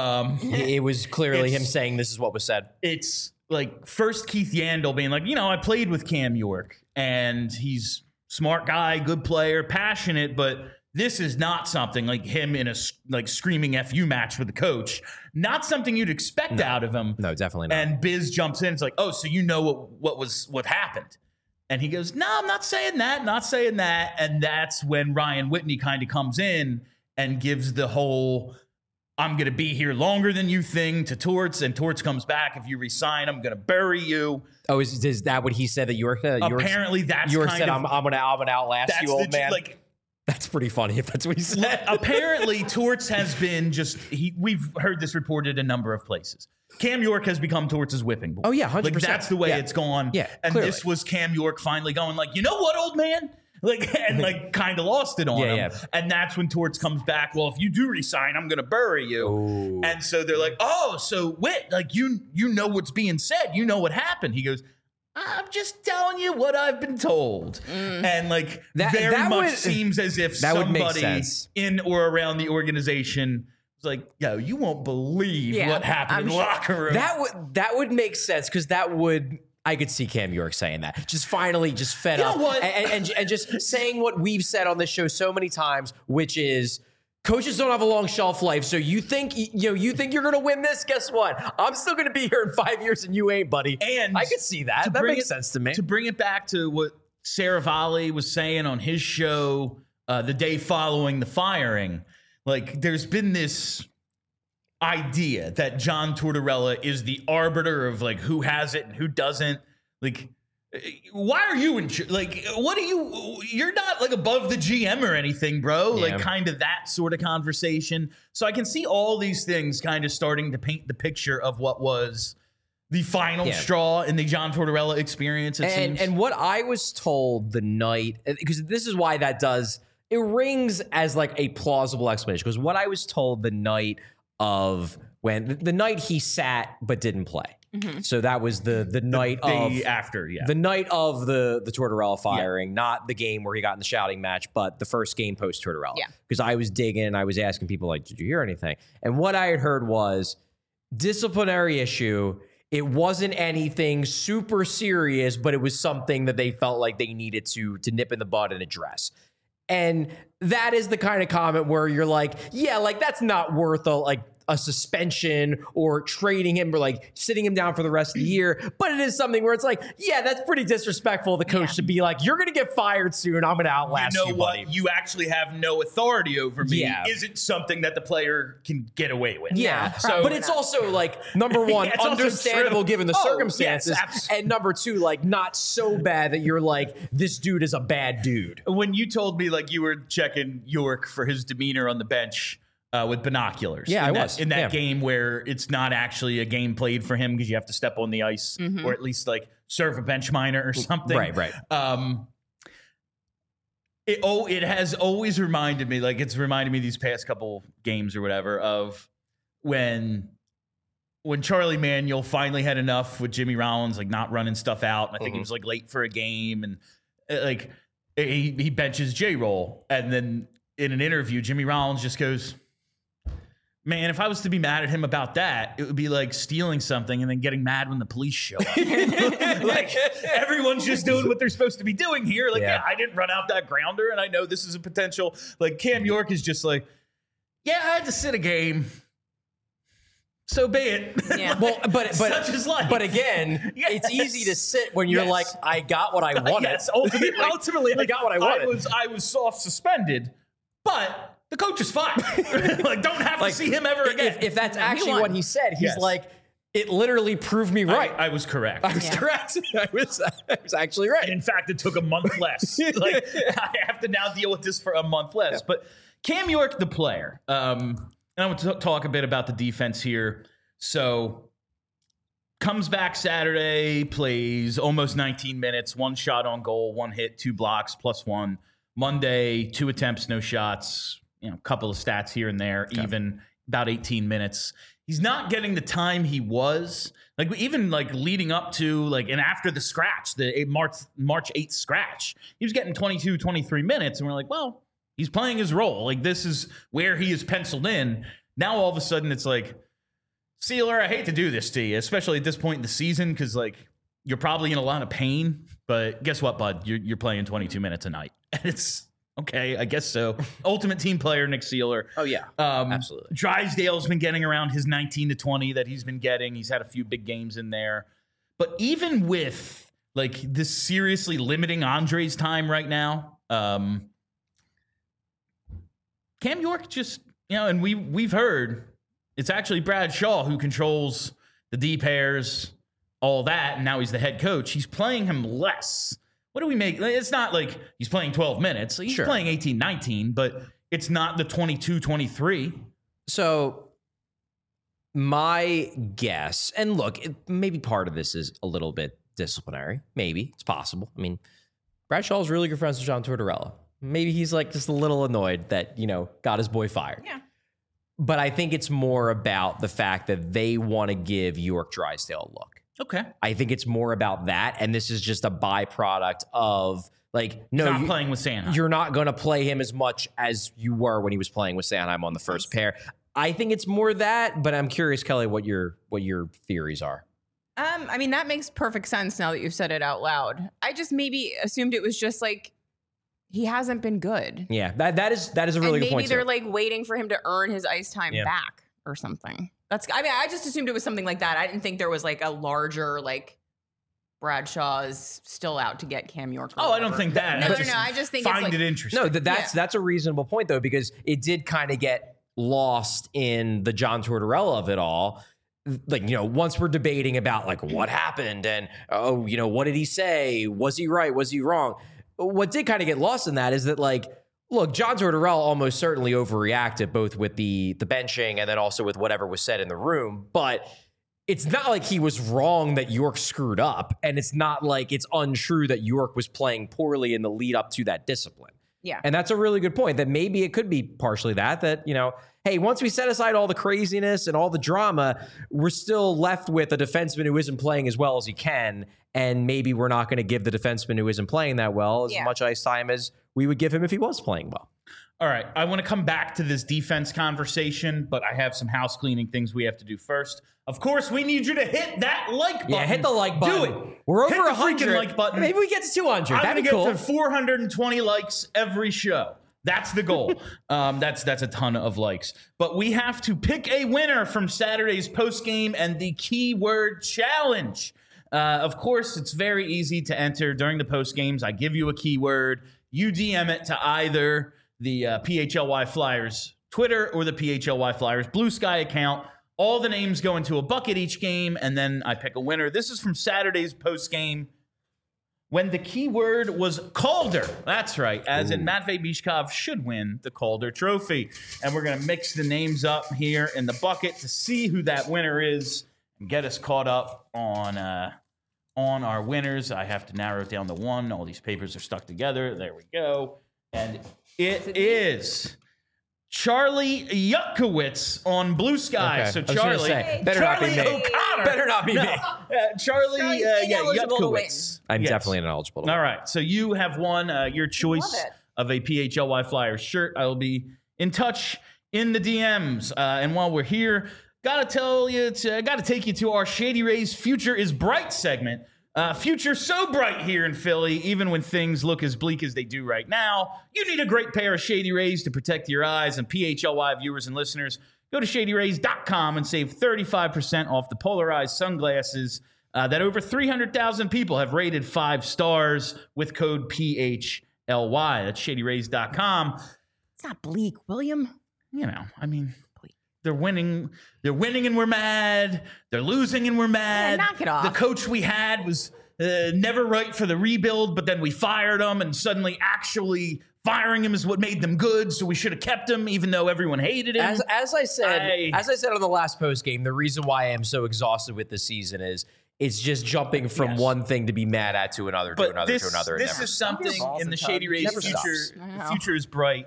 It was clearly him saying this is what was said. It's like first Keith Yandel being like, you know, I played with Cam York, and he's smart guy, good player, passionate, but this is not something like him in a screaming FU match with the coach. Not something you'd expect out of him. No, definitely not. And Biz jumps in. It's like, oh, so you know what happened? And he goes, no, I'm not saying that. Not saying that. And that's when Ryan Whitney kind of comes in and gives the whole, I'm going to be here longer than you thing to Torts. And Torts comes back. If you resign, I'm going to bury you. Oh, is that what he said that York? Apparently, that's York kind said, of, I'm going to outlast you, old man. Like, that's pretty funny if that's what he said. Apparently, Torts has been we've heard this reported a number of places. Cam York has become Torts' whipping boy. Oh, yeah, 100%. Like, that's the way it's gone. Yeah, and clearly. This was Cam York finally going like, you know what, old man? Like, and like kind of lost it on him. Yeah. And that's when Torts comes back. Well, if you do resign, I'm going to bury you. Ooh. And so they're like, oh, so Whit, like you know what's being said. You know what happened. He goes, I'm just telling you what I've been told. And like that much seems as if somebody in or around the organization was like, yo, you won't believe what happened in the locker room. That would make sense because I could see Cam York saying that. Just finally just fed up. What? And just saying what we've said on this show so many times, which is coaches don't have a long shelf life. So you think you're going to win this? Guess what? I'm still going to be here in 5 years and you ain't, buddy. And I could see that. That makes sense to me. To bring it back to what Saravalli was saying on his show the day following the firing, like there's been this idea that John Tortorella is the arbiter of like who has it and who doesn't. Like, why are you like, what are you're not like above the GM or anything, bro. Yeah. Like kind of that sort of conversation. So I can see all these things kind of starting to paint the picture of what was the final straw in the John Tortorella experience. And what I was told the night, because this is why it rings as like a plausible explanation. Because what I was told the night he sat but didn't play. Mm-hmm. So that was the night the night of the Tortorella firing, not the game where he got in the shouting match, but the first game post Tortorella. Yeah. Because I was digging and I was asking people like, did you hear anything? And what I had heard was disciplinary issue. It wasn't anything super serious, but it was something that they felt like they needed to nip in the bud and address. And that is the kind of comment where you're like, yeah, like that's not worth a suspension or trading him or like sitting him down for the rest of the year. But it is something where it's like, yeah, that's pretty disrespectful of the coach to be like, you're going to get fired soon. I'm going to outlast you, what? buddy. You actually have no authority over me. Yeah. Isn't something that the player can get away with. Yeah. Probably But it's also like, number one, Yeah, it's also understandable true. given the Oh, circumstances. yes, and number two, like not so bad that you're like, this dude is a bad dude. When you told me like you were checking York for his demeanor on the bench with binoculars. Yeah, in I that, was. in that Yeah. game where it's not actually a game played for him because you have to step on the ice or at least like serve a bench minor or something. Right. It has always reminded me, like it's reminded me these past couple games or whatever of when Charlie Manuel finally had enough with Jimmy Rollins, like not running stuff out. And I think he was like late for a game and like he benches J-Roll. And then in an interview, Jimmy Rollins just goes, man, if I was to be mad at him about that, it would be like stealing something and then getting mad when the police show up. Like everyone's just doing what they're supposed to be doing here. Like, yeah, I didn't run out that grounder and I know this is a potential. Like Cam York is just like, yeah, I had to sit a game. So be it. Yeah. Well, but Such is life. But again, Yes. it's easy to sit when you're Yes. like, I got what I wanted. Yes, ultimately, I got what I wanted. I was soft suspended, but the coach is fine. Like, don't have to see him ever again. If that's Yeah, he actually won. what he said, he's Yes. like, it literally proved me right. I was correct. I was correct. I was actually right. In fact, it took a month less. Like I have to now deal with this for a month less. Yeah. But Cam York, the player, and I want to talk a bit about the defense here. So comes back Saturday, plays almost 19 minutes, 1 shot on goal, 1 hit, 2 blocks, +1. Monday, 2 attempts, no shots, a couple of stats here and there, even about 18 minutes. He's not getting the time he was, like even like leading up to like, and after the scratch, the March 8th scratch, he was getting 22, 23 minutes. And we're like, well, he's playing his role. Like this is where he is penciled in. Now, all of a sudden it's like, Sealer, I hate to do this to you, especially at this point in the season, because like you're probably in a lot of pain. But guess what, bud? You're playing 22 minutes a night, and it's okay. I guess so. Ultimate team player, Nick Sealer. Oh yeah, absolutely. Drysdale's been getting around his 19 to 20 that he's been getting. He's had a few big games in there, but even with like this seriously limiting Andre's time right now, Cam York just and we've heard. It's actually Brad Shaw who controls the D pairs, all that, and now he's the head coach. He's playing him less. What do we make? It's not like he's playing 12 minutes. He's playing 18, 19, but it's not the 22, 23. So my guess, and look, maybe part of this is a little bit disciplinary. Maybe. It's possible. I mean, Brad Shaw's really good friends with John Tortorella. Maybe he's like just a little annoyed that, got his boy fired. Yeah. But I think it's more about the fact that they want to give York Drysdale a look. Okay. I think it's more about that. And this is just a byproduct of like, no, He's not playing with Sanheim. You're not going to play him as much as you were when he was playing with Sanheim on the first pair. I think it's more that, but I'm curious, Kelly, what your theories are. I mean, that makes perfect sense now that you've said it out loud. I just maybe assumed it was just like, he hasn't been good. Yeah, that is a really good point. Maybe they're like waiting for him to earn his ice time back or something. I just assumed it was something like that. I didn't think there was like a larger like Bradshaw is still out to get Cam York. I don't think that. No. I just think find it's like, it interesting. No, that's a reasonable point though, because it did kind of get lost in the John Tortorella of it all. Like, once we're debating about like what happened and what did he say? Was he right? Was he wrong? What did kind of get lost in that is that, like, look, John Tortorella almost certainly overreacted, both with the benching and then also with whatever was said in the room. But it's not like he was wrong that York screwed up. And it's not like it's untrue that York was playing poorly in the lead up to that discipline. Yeah. And that's a really good point, that maybe it could be partially that, hey, once we set aside all the craziness and all the drama, we're still left with a defenseman who isn't playing as well as he can. And maybe we're not going to give the defenseman who isn't playing that well as much ice time as we would give him if he was playing well. All right. I want to come back to this defense conversation, but I have some house cleaning things we have to do first. Of course, we need you to hit that like button. Yeah, hit the like button. Do it. We're over hit the 100. freaking like button. Maybe we get to 200. I'm That'd going be to cool. get to 420 likes every show. That's the goal. That's a ton of likes. But we have to pick a winner from Saturday's post game and the keyword challenge. Of course, it's very easy to enter during the post games. I give you a keyword. You DM it to either the PHLY Flyers Twitter or the PHLY Flyers Blue Sky account. All the names go into a bucket each game, and then I pick a winner. This is from Saturday's post game, when the keyword was Calder. That's right, as in Matvei Mishkov should win the Calder Trophy. And we're going to mix the names up here in the bucket to see who that winner is and get us caught up on our winners. I have to narrow it down to one. All these papers are stuck together. There we go. And it is Charlie Yutkowitz on Blue Sky. Okay. So I was gonna Charlie, say, better not be me. O'Connor. Better not be me. Charlie, Charlie's ineligible to win. Yutkowitz. I'm Yes. definitely ineligible. All right. So you have won your choice Love it. of a PHLY Flyers shirt. I will be in touch in the DMs. And while we're here, gotta take you to our Shady Rays Future is Bright segment. Future so bright here in Philly, even when things look as bleak as they do right now. You need a great pair of Shady Rays to protect your eyes. And PHLY viewers and listeners, go to shadyrays.com and save 35% off the polarized sunglasses that over 300,000 people have rated 5 stars with code PHLY. That's shadyrays.com. It's not bleak, William. You know, I mean, they're winning and we're mad. They're losing and we're mad. Yeah, knock it off. The coach we had was never right for the rebuild, but then we fired him, and suddenly actually firing him is what made them good. So we should have kept him, even though everyone hated him. As I said on the last post game, the reason why I am so exhausted with this season is it's just jumping from one thing to be mad at to another, to another, to another. This is something in the Shady Rays Never future. stops. The future is bright.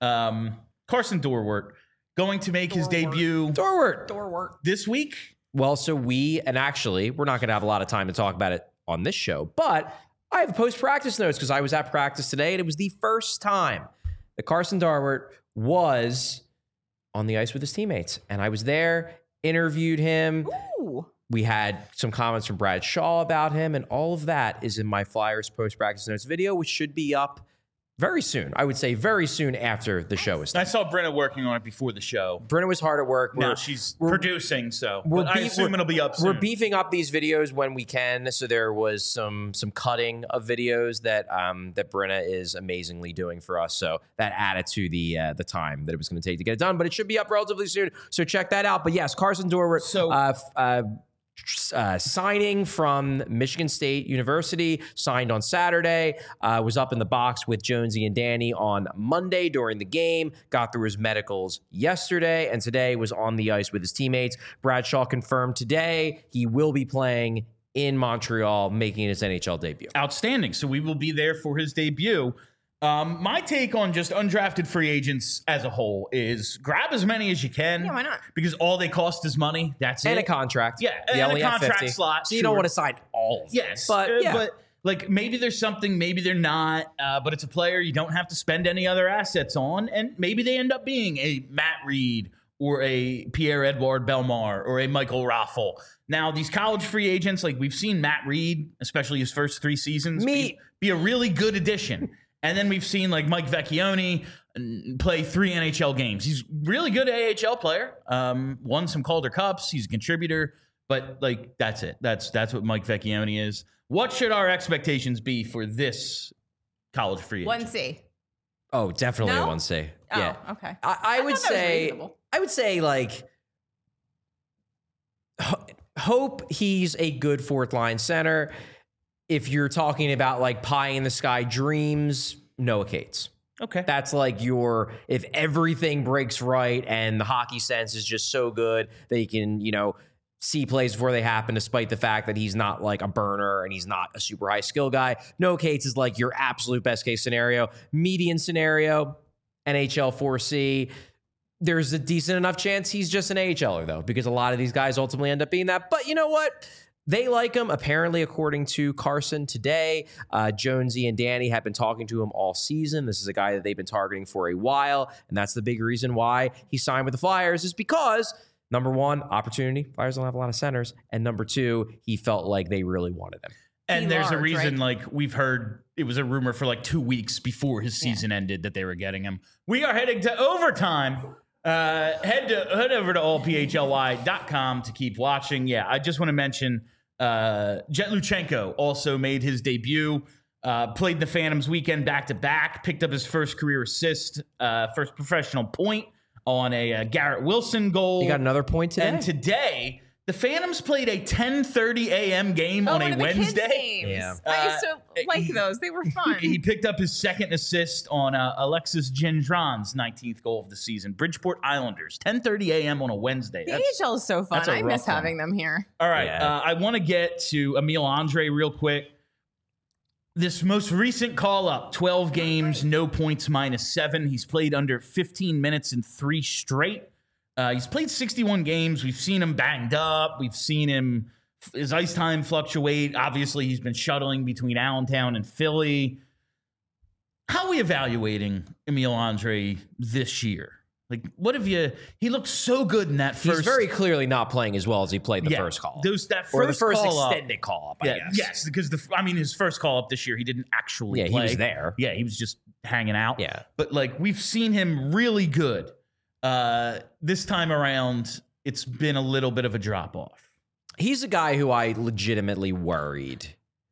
Carson Dorwart going to make his debut Forward. Door work. this week. Well, so we're not going to have a lot of time to talk about it on this show, but I have post-practice notes because I was at practice today, and it was the first time that Carson Dorwart was on the ice with his teammates. And I was there, interviewed him. Ooh. We had some comments from Brad Shaw about him, and all of that is in my Flyers post-practice notes video, which should be up very soon. I would say very soon after the show is done. I saw Brenna working on it before the show. Brenna was hard at work. Now she's producing, so I assume it'll be up soon. We're beefing up these videos when we can. So there was some cutting of videos that that Brenna is amazingly doing for us. So that added to the time that it was going to take to get it done. But it should be up relatively soon. So check that out. But yes, Carson Dorwart. So signing from Michigan State University, signed on Saturday, was up in the box with Jonesy and Danny on Monday during the game, got through his medicals yesterday, and today was on the ice with his teammates. Bradshaw confirmed today he will be playing in Montreal, making his NHL debut. outstanding. So we will be there for his debut. My take on just undrafted free agents as a whole is grab as many as you can. Yeah, why not? Because all they cost is money. That's And it. a contract. Yeah, You and only a have contract 50. slot. So you don't sure. want to sign all of them. Yes, But like maybe there's something, maybe they're not. But it's a player you don't have to spend any other assets on, and maybe they end up being a Matt Reed or a Pierre-Edouard Bellemare or a Michael Raffle. Now these college free agents, like we've seen Matt Reed, especially his first 3 seasons, be a really good addition. And then we've seen like Mike Vecchione play 3 NHL games. He's really good AHL player. Won some Calder Cups. He's a contributor, but like that's it. That's what Mike Vecchione is. What should our expectations be for this college free agent? 1C. Oh, definitely No? a 1C. Oh, Yeah. okay. I would thought that was say reasonable. like hope he's a good 4th line center. If you're talking about like pie in the sky dreams, Noah Cates. Okay. That's like if everything breaks right and the hockey sense is just so good that he can, see plays before they happen, despite the fact that he's not like a burner and he's not a super high skill guy. Noah Cates is like your absolute best case scenario. Median scenario, NHL 4C. There's a decent enough chance he's just an AHLer, though, because a lot of these guys ultimately end up being that. But you know what? They like him, apparently, according to Carson today. Jonesy and Danny have been talking to him all season. This is a guy that they've been targeting for a while, and that's the big reason why he signed with the Flyers is because, number one, opportunity. Flyers don't have a lot of centers. And number two, he felt like they really wanted him. And there's a large, reason, right? like, we've heard it was a rumor for like 2 weeks before his season ended that they were getting him. We are heading to overtime. Head over to allphly.com to keep watching. Yeah, I just want to mention Jet Luchenko also made his debut. Played the Phantoms weekend back-to-back. Picked up his first career assist, first professional point on a Garrett Wilson goal. You got another point today? And today, the Phantoms played a 10:30 a.m. game on one a of the kids' Wednesday. games. Yeah. I used to like those. They were fun. He picked up his second assist on Alexis Gendron's 19th goal of the season. Bridgeport Islanders, 10:30 a.m. on a Wednesday. The AHL is so fun. that's a I rough miss one. having them here. All right, Yeah. I want to get to Emile Andre real quick. This most recent call up, 12 games, no points, -7. He's played under 15 minutes in 3 straight. He's played 61 games. We've seen him banged up. We've seen him, his ice time fluctuate. Obviously, he's been shuttling between Allentown and Philly. How are we evaluating Emile Andre this year? Like, what have you? He looked so good in that first. He's very clearly not playing as well as he played the first call. That or the first first call up. extended call up, I Yeah, guess. yes, because his first call up this year, he didn't actually Yeah, play. he was there. Yeah, he was just hanging out. Yeah. But like we've seen him really good. This time around, it's been a little bit of a drop off. He's a guy who I legitimately worried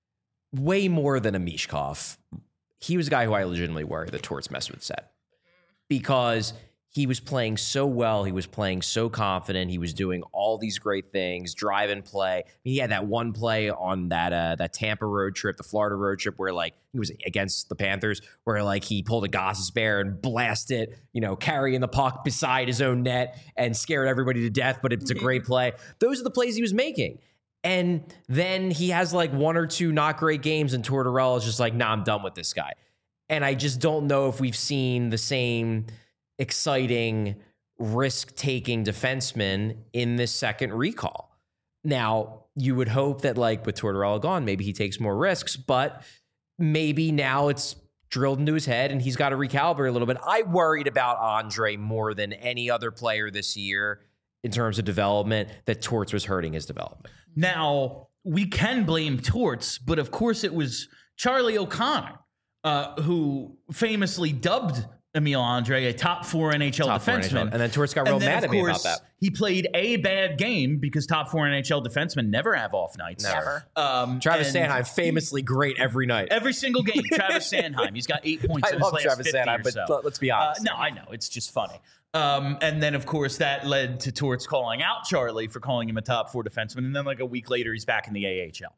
way more than a Mishkov. He was a guy who I legitimately worried that Torts messed with his head because he was playing so well. He was playing so confident. He was doing all these great things, drive and play. He had that one play on that Tampa road trip, the Florida road trip, where like he was against the Panthers, where like he pulled a Goss's bear and blasted, carrying the puck beside his own net and scared everybody to death. But it's a great play. Those are the plays he was making. And then he has like 1 or 2 not great games, and Tortorella is just like, nah, I'm done with this guy. And I just don't know if we've seen the same exciting, risk-taking defenseman in this second recall. Now, you would hope that like with Tortorella gone, maybe he takes more risks, but maybe now it's drilled into his head and he's got to recalibrate a little bit. I worried about Andre more than any other player this year in terms of development, that Torts was hurting his development. Now, we can blame Torts, but of course it was Charlie O'Connor who famously dubbed Emile Andre a top 4 NHL defenseman. And then Torts got real mad at me about that. He played a bad game because top 4 NHL defensemen never have off nights. Never. Travis and Sanheim, famously great every night. Every single game, Travis Sanheim. He's got 8 points I in his love last Travis 50 Sanheim, or but so. let's be honest. No, I know. It's just funny. And then, of course, that led to Torts calling out Charlie for calling him a top 4 defenseman. And then like a week later, he's back in the AHL.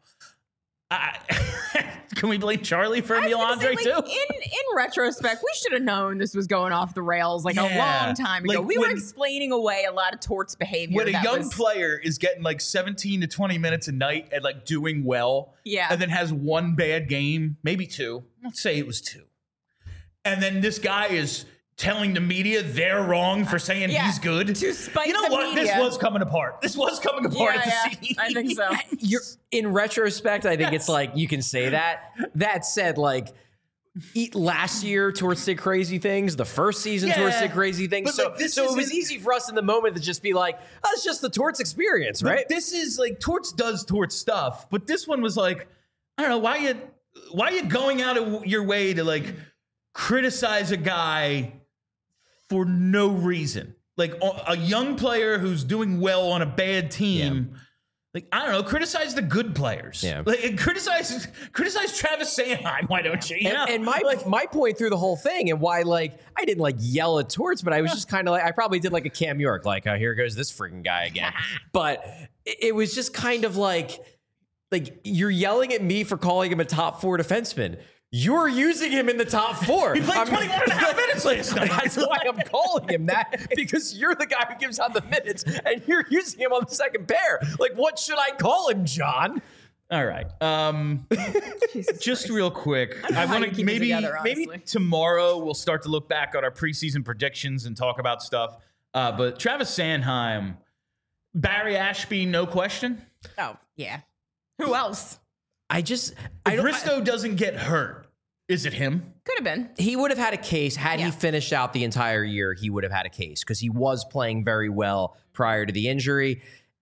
Can we blame Charlie for Emile Andre too? In retrospect, we should have known this was going off the rails like a Yeah. long time ago. Like We were when- explaining away a lot of Torts behavior. When a that young was- player is getting like 17 to 20 minutes a night and like doing well, Yeah. and then has one bad game, maybe 2. Let's say it was 2. And then this guy is telling the media they're wrong for saying Yeah, he's good. to spite you know the what? media. This was coming apart. This was coming apart at the seams. I think so. In retrospect, I think it's like you can say that. That said, like last year, Torts did crazy things. The first season, Yeah. Torts did crazy things. But, So, like, this so it was isn't- easy for us in the moment to just be like, oh, it's just the Torts experience, But right? this is like Torts does Torts stuff, but this one was like, I don't know, why you going out of your way to like criticize a guy for no reason? Like a young player who's doing well on a bad team. Like, I don't know, criticize the good players. Yeah. Like criticize Travis Sanheim, why don't you? And my point through the whole thing and why like I didn't like yell at Torts, but I was just kind of like I probably did like a Cam York, like here goes this freaking guy again. But it was just kind of like you're yelling at me for calling him a top 4 defenseman. You're using him in the top 4. he played 21 and a half minutes last night. That's why I'm calling him that, because you're the guy who gives out the minutes and you're using him on the second pair. Like, what should I call him, John? All right. Just real quick, I how want you to keep it together, maybe honestly. tomorrow we'll start to look back on our preseason predictions and talk about stuff. But Travis Sanheim, Barry Ashby, no question. Oh, yeah. Who else? If Bristow doesn't get hurt, is it him? Could have been. He would have had a case had he Yeah. finished out the entire year. He would have had a case because he was playing very well prior to the injury.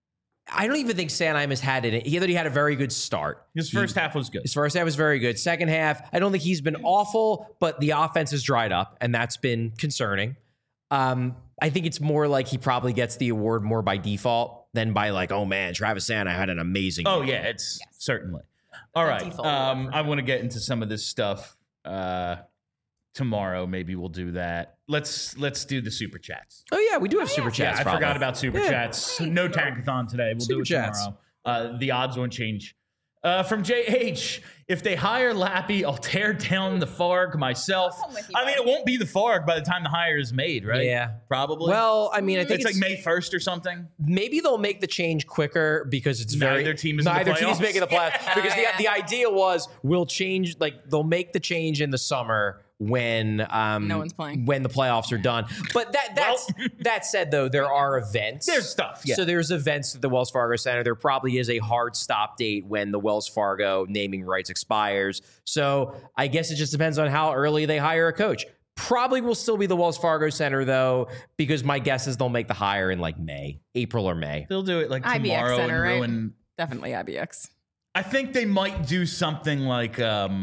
I don't even think Sanheim has had it. He had a very good start. His first half was good. His first half was very good. Second half, I don't think he's been awful, but the offense has dried up, and that's been concerning. I think it's more like he probably gets the award more by default than by like, oh man, Travis Sanheim had an amazing Oh game. yeah, it's certainly. All right. default award. I want to get into some of this stuff tomorrow. Maybe we'll do that. Let's do the super chats. Oh yeah, we do have super Yeah, chats. I probably. forgot about super chats. No tankathon today. We'll do it Super chats. tomorrow. The odds won't change. From JH, if they hire Lappy, I'll tear down the Farg myself. I'm with you, I mean, it won't be the Farg by the time the hire is made, right? Yeah. Probably. Well, I mean, I think it's like May 1st or something. maybe they'll make the change quicker because it's Neither team is in the neither team's playoffs. making the playoffs because the idea was we'll change, like they'll make the change in the summer when No one's playing. when the playoffs are done. But that said though, there are events. There's stuff, yeah. So there's events at the Wells Fargo Center. There probably is a hard stop date when the Wells Fargo naming rights expires. So I guess it just depends on how early they hire a coach. Probably will still be the Wells Fargo Center though, because my guess is they'll make the hire in like April or May. They'll do it like IBX tomorrow Center, and right? ruin. Definitely IBX. I think they might do something like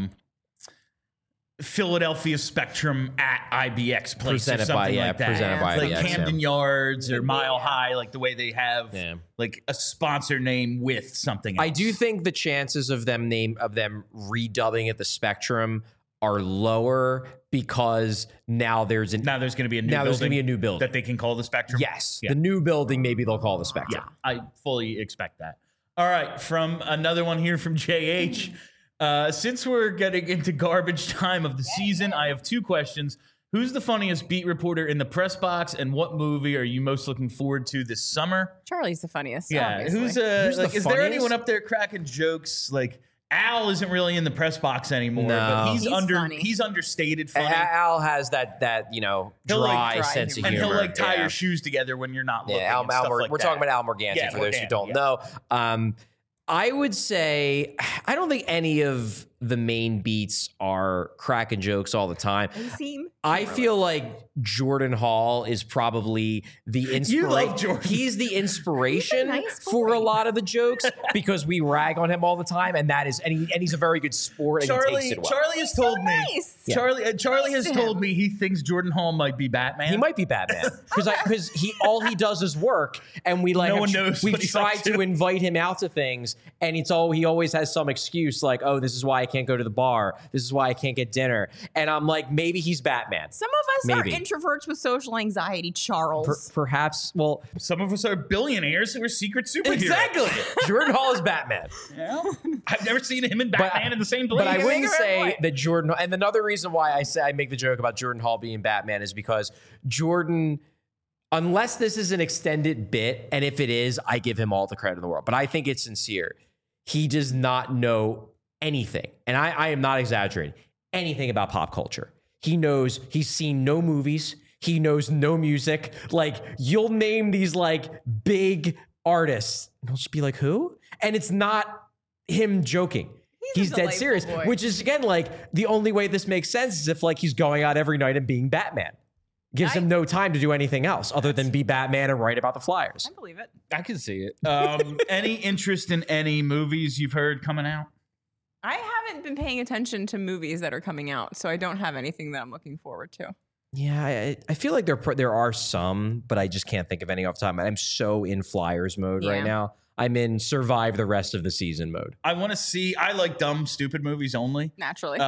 Philadelphia Spectrum at IBX place or Presented something by- yeah, like that. presented by like IBX, Camden Yards or Mile High, like the way they have Yeah. like a sponsor name with something else. I do think the chances of them redubbing it the Spectrum are lower because now there's now there's going to be a new now building there's going to be a new building. that they can call the Spectrum. Yes, Yeah. the new building maybe they'll call the Spectrum. Yeah, I fully expect that. All right, from another one here from JH. Since we're getting into garbage time of the season, I have two questions. Who's the funniest beat reporter in the press box, and what movie are you most looking forward to this summer? Charlie's the funniest. Yeah, obviously. who's Who's the like? Is there funniest? anyone up there cracking jokes? Like Al isn't really in the press box anymore, No. but he's funny. he's understated funny, Al has that He'll, dry like, sense of and humor. he'll like tie Yeah. your shoes together when you're not looking. Yeah, and stuff like we're that. talking about Al Morganti Yeah, for those who Morganti, don't yeah. know. I would say I don't think any of the main beats are cracking jokes all the time. You seem. I feel like Jordan Hall is probably the You inspiration. love Jordan. He's the inspiration nice for boy. a lot of the jokes because we rag on him all the time, and that is, and he's a very good sport, and he takes it well. Charlie has told me. nice. Yeah. Charlie Nice has to told him. me he thinks Jordan Hall might be Batman. He might be Batman because all he does is work, and we like No one knows we've what he's tried up to to. invite him out to things, and he always has some excuse like, oh, this is why I can't go to the bar, this is why I can't get dinner, and I'm like, maybe he's Batman. Some of us Maybe. are introverts with social anxiety, Charles. Perhaps. Well, Some of us are billionaires who are secret superheroes. exactly. Jordan Hall is Batman. Yeah. I've never seen him and Batman in the same place. But I You wouldn't make a fair say point. that Jordan. And another reason why I say I make the joke about Jordan Hall being Batman is because Jordan, unless this is an extended bit, and if it is, I give him all the credit in the world. But I think it's sincere. He does not know anything, and I am not exaggerating, anything about pop culture. He knows. He's seen no movies. He knows no music. Like, you'll name these like big artists, and he'll just be like, who? And it's not him joking. He's a dead delightful serious, boy. which is again like the only way this makes sense is if like he's going out every night and being Batman. Gives him no time to do anything else other than be Batman and write about the Flyers. I believe it. I can see it. Any interest in any movies you've heard coming out? I haven't been paying attention to movies that are coming out, so I don't have anything that I'm looking forward to. Yeah, I feel like there are some, but I just can't think of any off the top of my head. I'm so in Flyers mode right Yeah. now. I'm in survive the rest of the season mode. I want to see. I like dumb, stupid movies only. Naturally.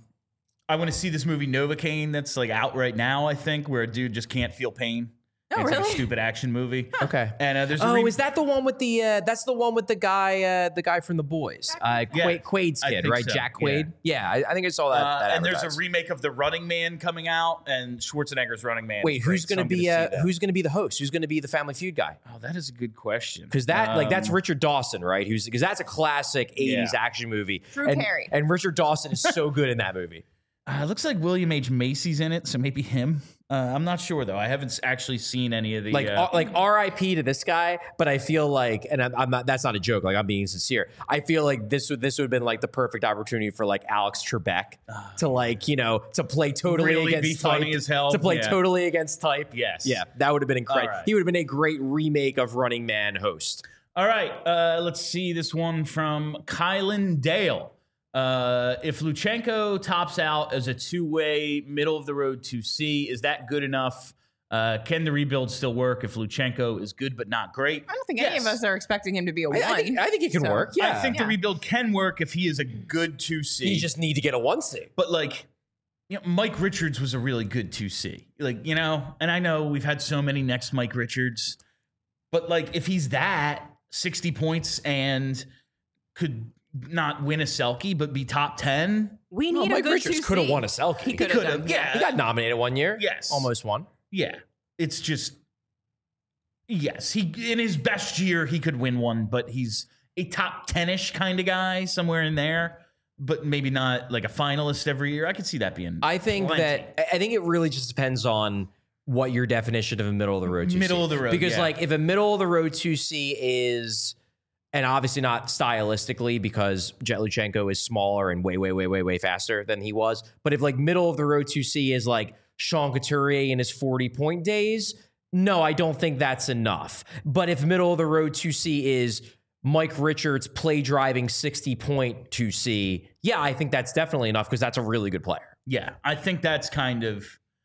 I want to see this movie Novocaine that's like out right now. I think where a dude just can't feel pain. Oh, It's like a really? stupid action movie. Okay. And there's a Oh, re- is that the one with the? That's the one with the guy from The Boys, Quaid's I kid, think right? so, Jack Quaid. Yeah, I think I saw that. and there's a advertised. remake of The Running Man coming out, and Schwarzenegger's Running Man. Wait, is who's great, going so to I'm be see that. who's going to be the host? Who's going to be the Family Feud guy? Oh, that is a good question. Because that's Richard Dawson, right? Because that's a classic '80s action movie. Drew and, Carey. and Richard Dawson is so good in that movie. It looks like William H. Macy's in it, so maybe him. I'm not sure though. I haven't actually seen any of the Like R.I.P. to this guy, but I feel like, and I'm not. That's not a joke. Like, I'm being sincere. I feel like this would have been like the perfect opportunity for like Alex Trebek to like to play totally Really against be type, funny as hell. to play Yeah. totally against type. Yes. Yeah, that would have been incredible. All right. He would have been a great remake of Running Man host. All right, let's see this one from Kylan Dale. If Luchenko tops out as a two-way, middle-of-the-road 2C, is that good enough? Can the rebuild still work if Luchenko is good but not great? I don't think any of us are expecting him to be a 1. I think it can work. Yeah, I think the rebuild can work if he is a good 2C. You just need to get a 1C. But Mike Richards was a really good 2C. And I know we've had so many next Mike Richards, but if he's that 60 points and could not win a Selke but be top 10, we need a Mike good Richards 2C. could have won a Selke. He could have. Yeah, He got nominated one year. Yes, almost won. Yeah, it's just he in his best year he could win one, but he's a top 10-ish kind of guy somewhere in there. But maybe not like a finalist every year. I could see that being. I think it really just depends on what your definition of a middle of the road 2C. Middle of the road, because yeah. if a middle of the road 2C is, and obviously not stylistically because Jet Luchenko is smaller and way faster than he was. But if middle of the road 2C is Sean Couturier in his 40-point days, no, I don't think that's enough. But if middle of the road 2C is Mike Richards play driving 60-point 2C, yeah, I think that's definitely enough because that's a really good player. Yeah, I think that's kind of.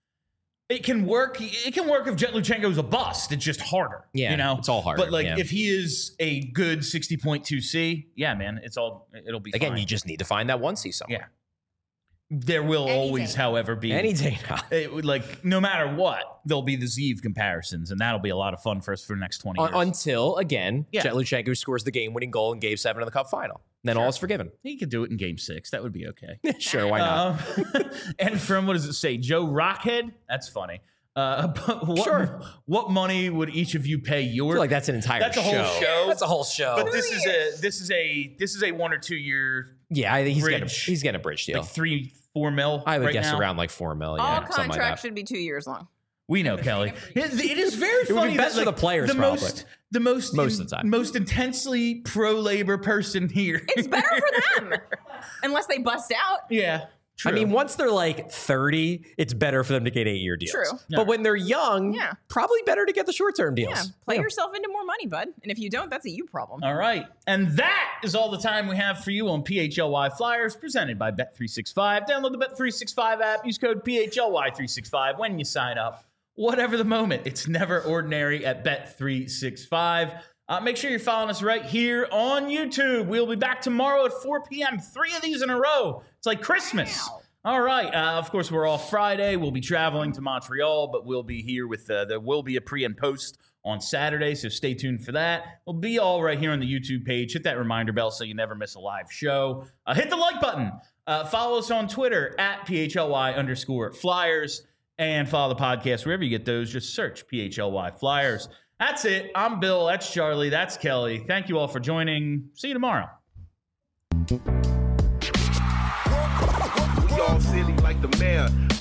It can work. It can work if Jet Luchenko is a bust. It's just harder. Yeah, it's all harder. But if he is a good 60-point 2C, yeah, man, it'll be again. fine. You just need to find that 1C somewhere. Yeah. There will always, however, be any day now. No matter what, there'll be the Zeev comparisons, and that'll be a lot of fun for us for the next 20 years. Until again, Jet Luchenko scores the game-winning goal in Game 7 of the Cup final. Then all is forgiven. He could do it in Game 6. That would be okay. Sure, why not? And from what does it say, Joe Rockhead? That's funny. But what money would each of you pay your? I feel like that's an entire That's show. a whole show. That's a whole show. But this is a 1 or 2 year. Yeah, I think bridge. he's getting a bridge deal. 3-4 mil. I would right guess now. around $4 million. All something like contracts that. should be 2 years long. We know, Kelly. It is very funny. It would be best for the players, probably. Most of the time. Most intensely pro-labor person here. It's better for them. Unless they bust out. Yeah. True. I mean, once they're 30, it's better for them to get 8-year deals. True. But when they're young, Yeah. probably better to get the short-term deals. Yeah. Play yourself into more money, bud. And if you don't, that's a you problem. All right. And that is all the time we have for you on PHLY Flyers, presented by Bet365. Download the Bet365 app. Use code PHLY365 when you sign up. Whatever the moment, it's never ordinary at Bet365. Make sure you're following us right here on YouTube. We'll be back tomorrow at 4 p.m. 3 of these in a row. It's like Christmas. Wow. All right. Of course, we're off Friday. We'll be traveling to Montreal, but we'll be here with there will be a pre and post on Saturday, so stay tuned for that. We'll be all right here on the YouTube page. Hit that reminder bell so you never miss a live show. Hit the like button. Follow us on Twitter at PHLY_Flyers. And follow the podcast wherever you get those. Just search PHLY Flyers. That's it. I'm Bill. That's Charlie. That's Kelly. Thank you all for joining. See you tomorrow. We all silly like the mayor.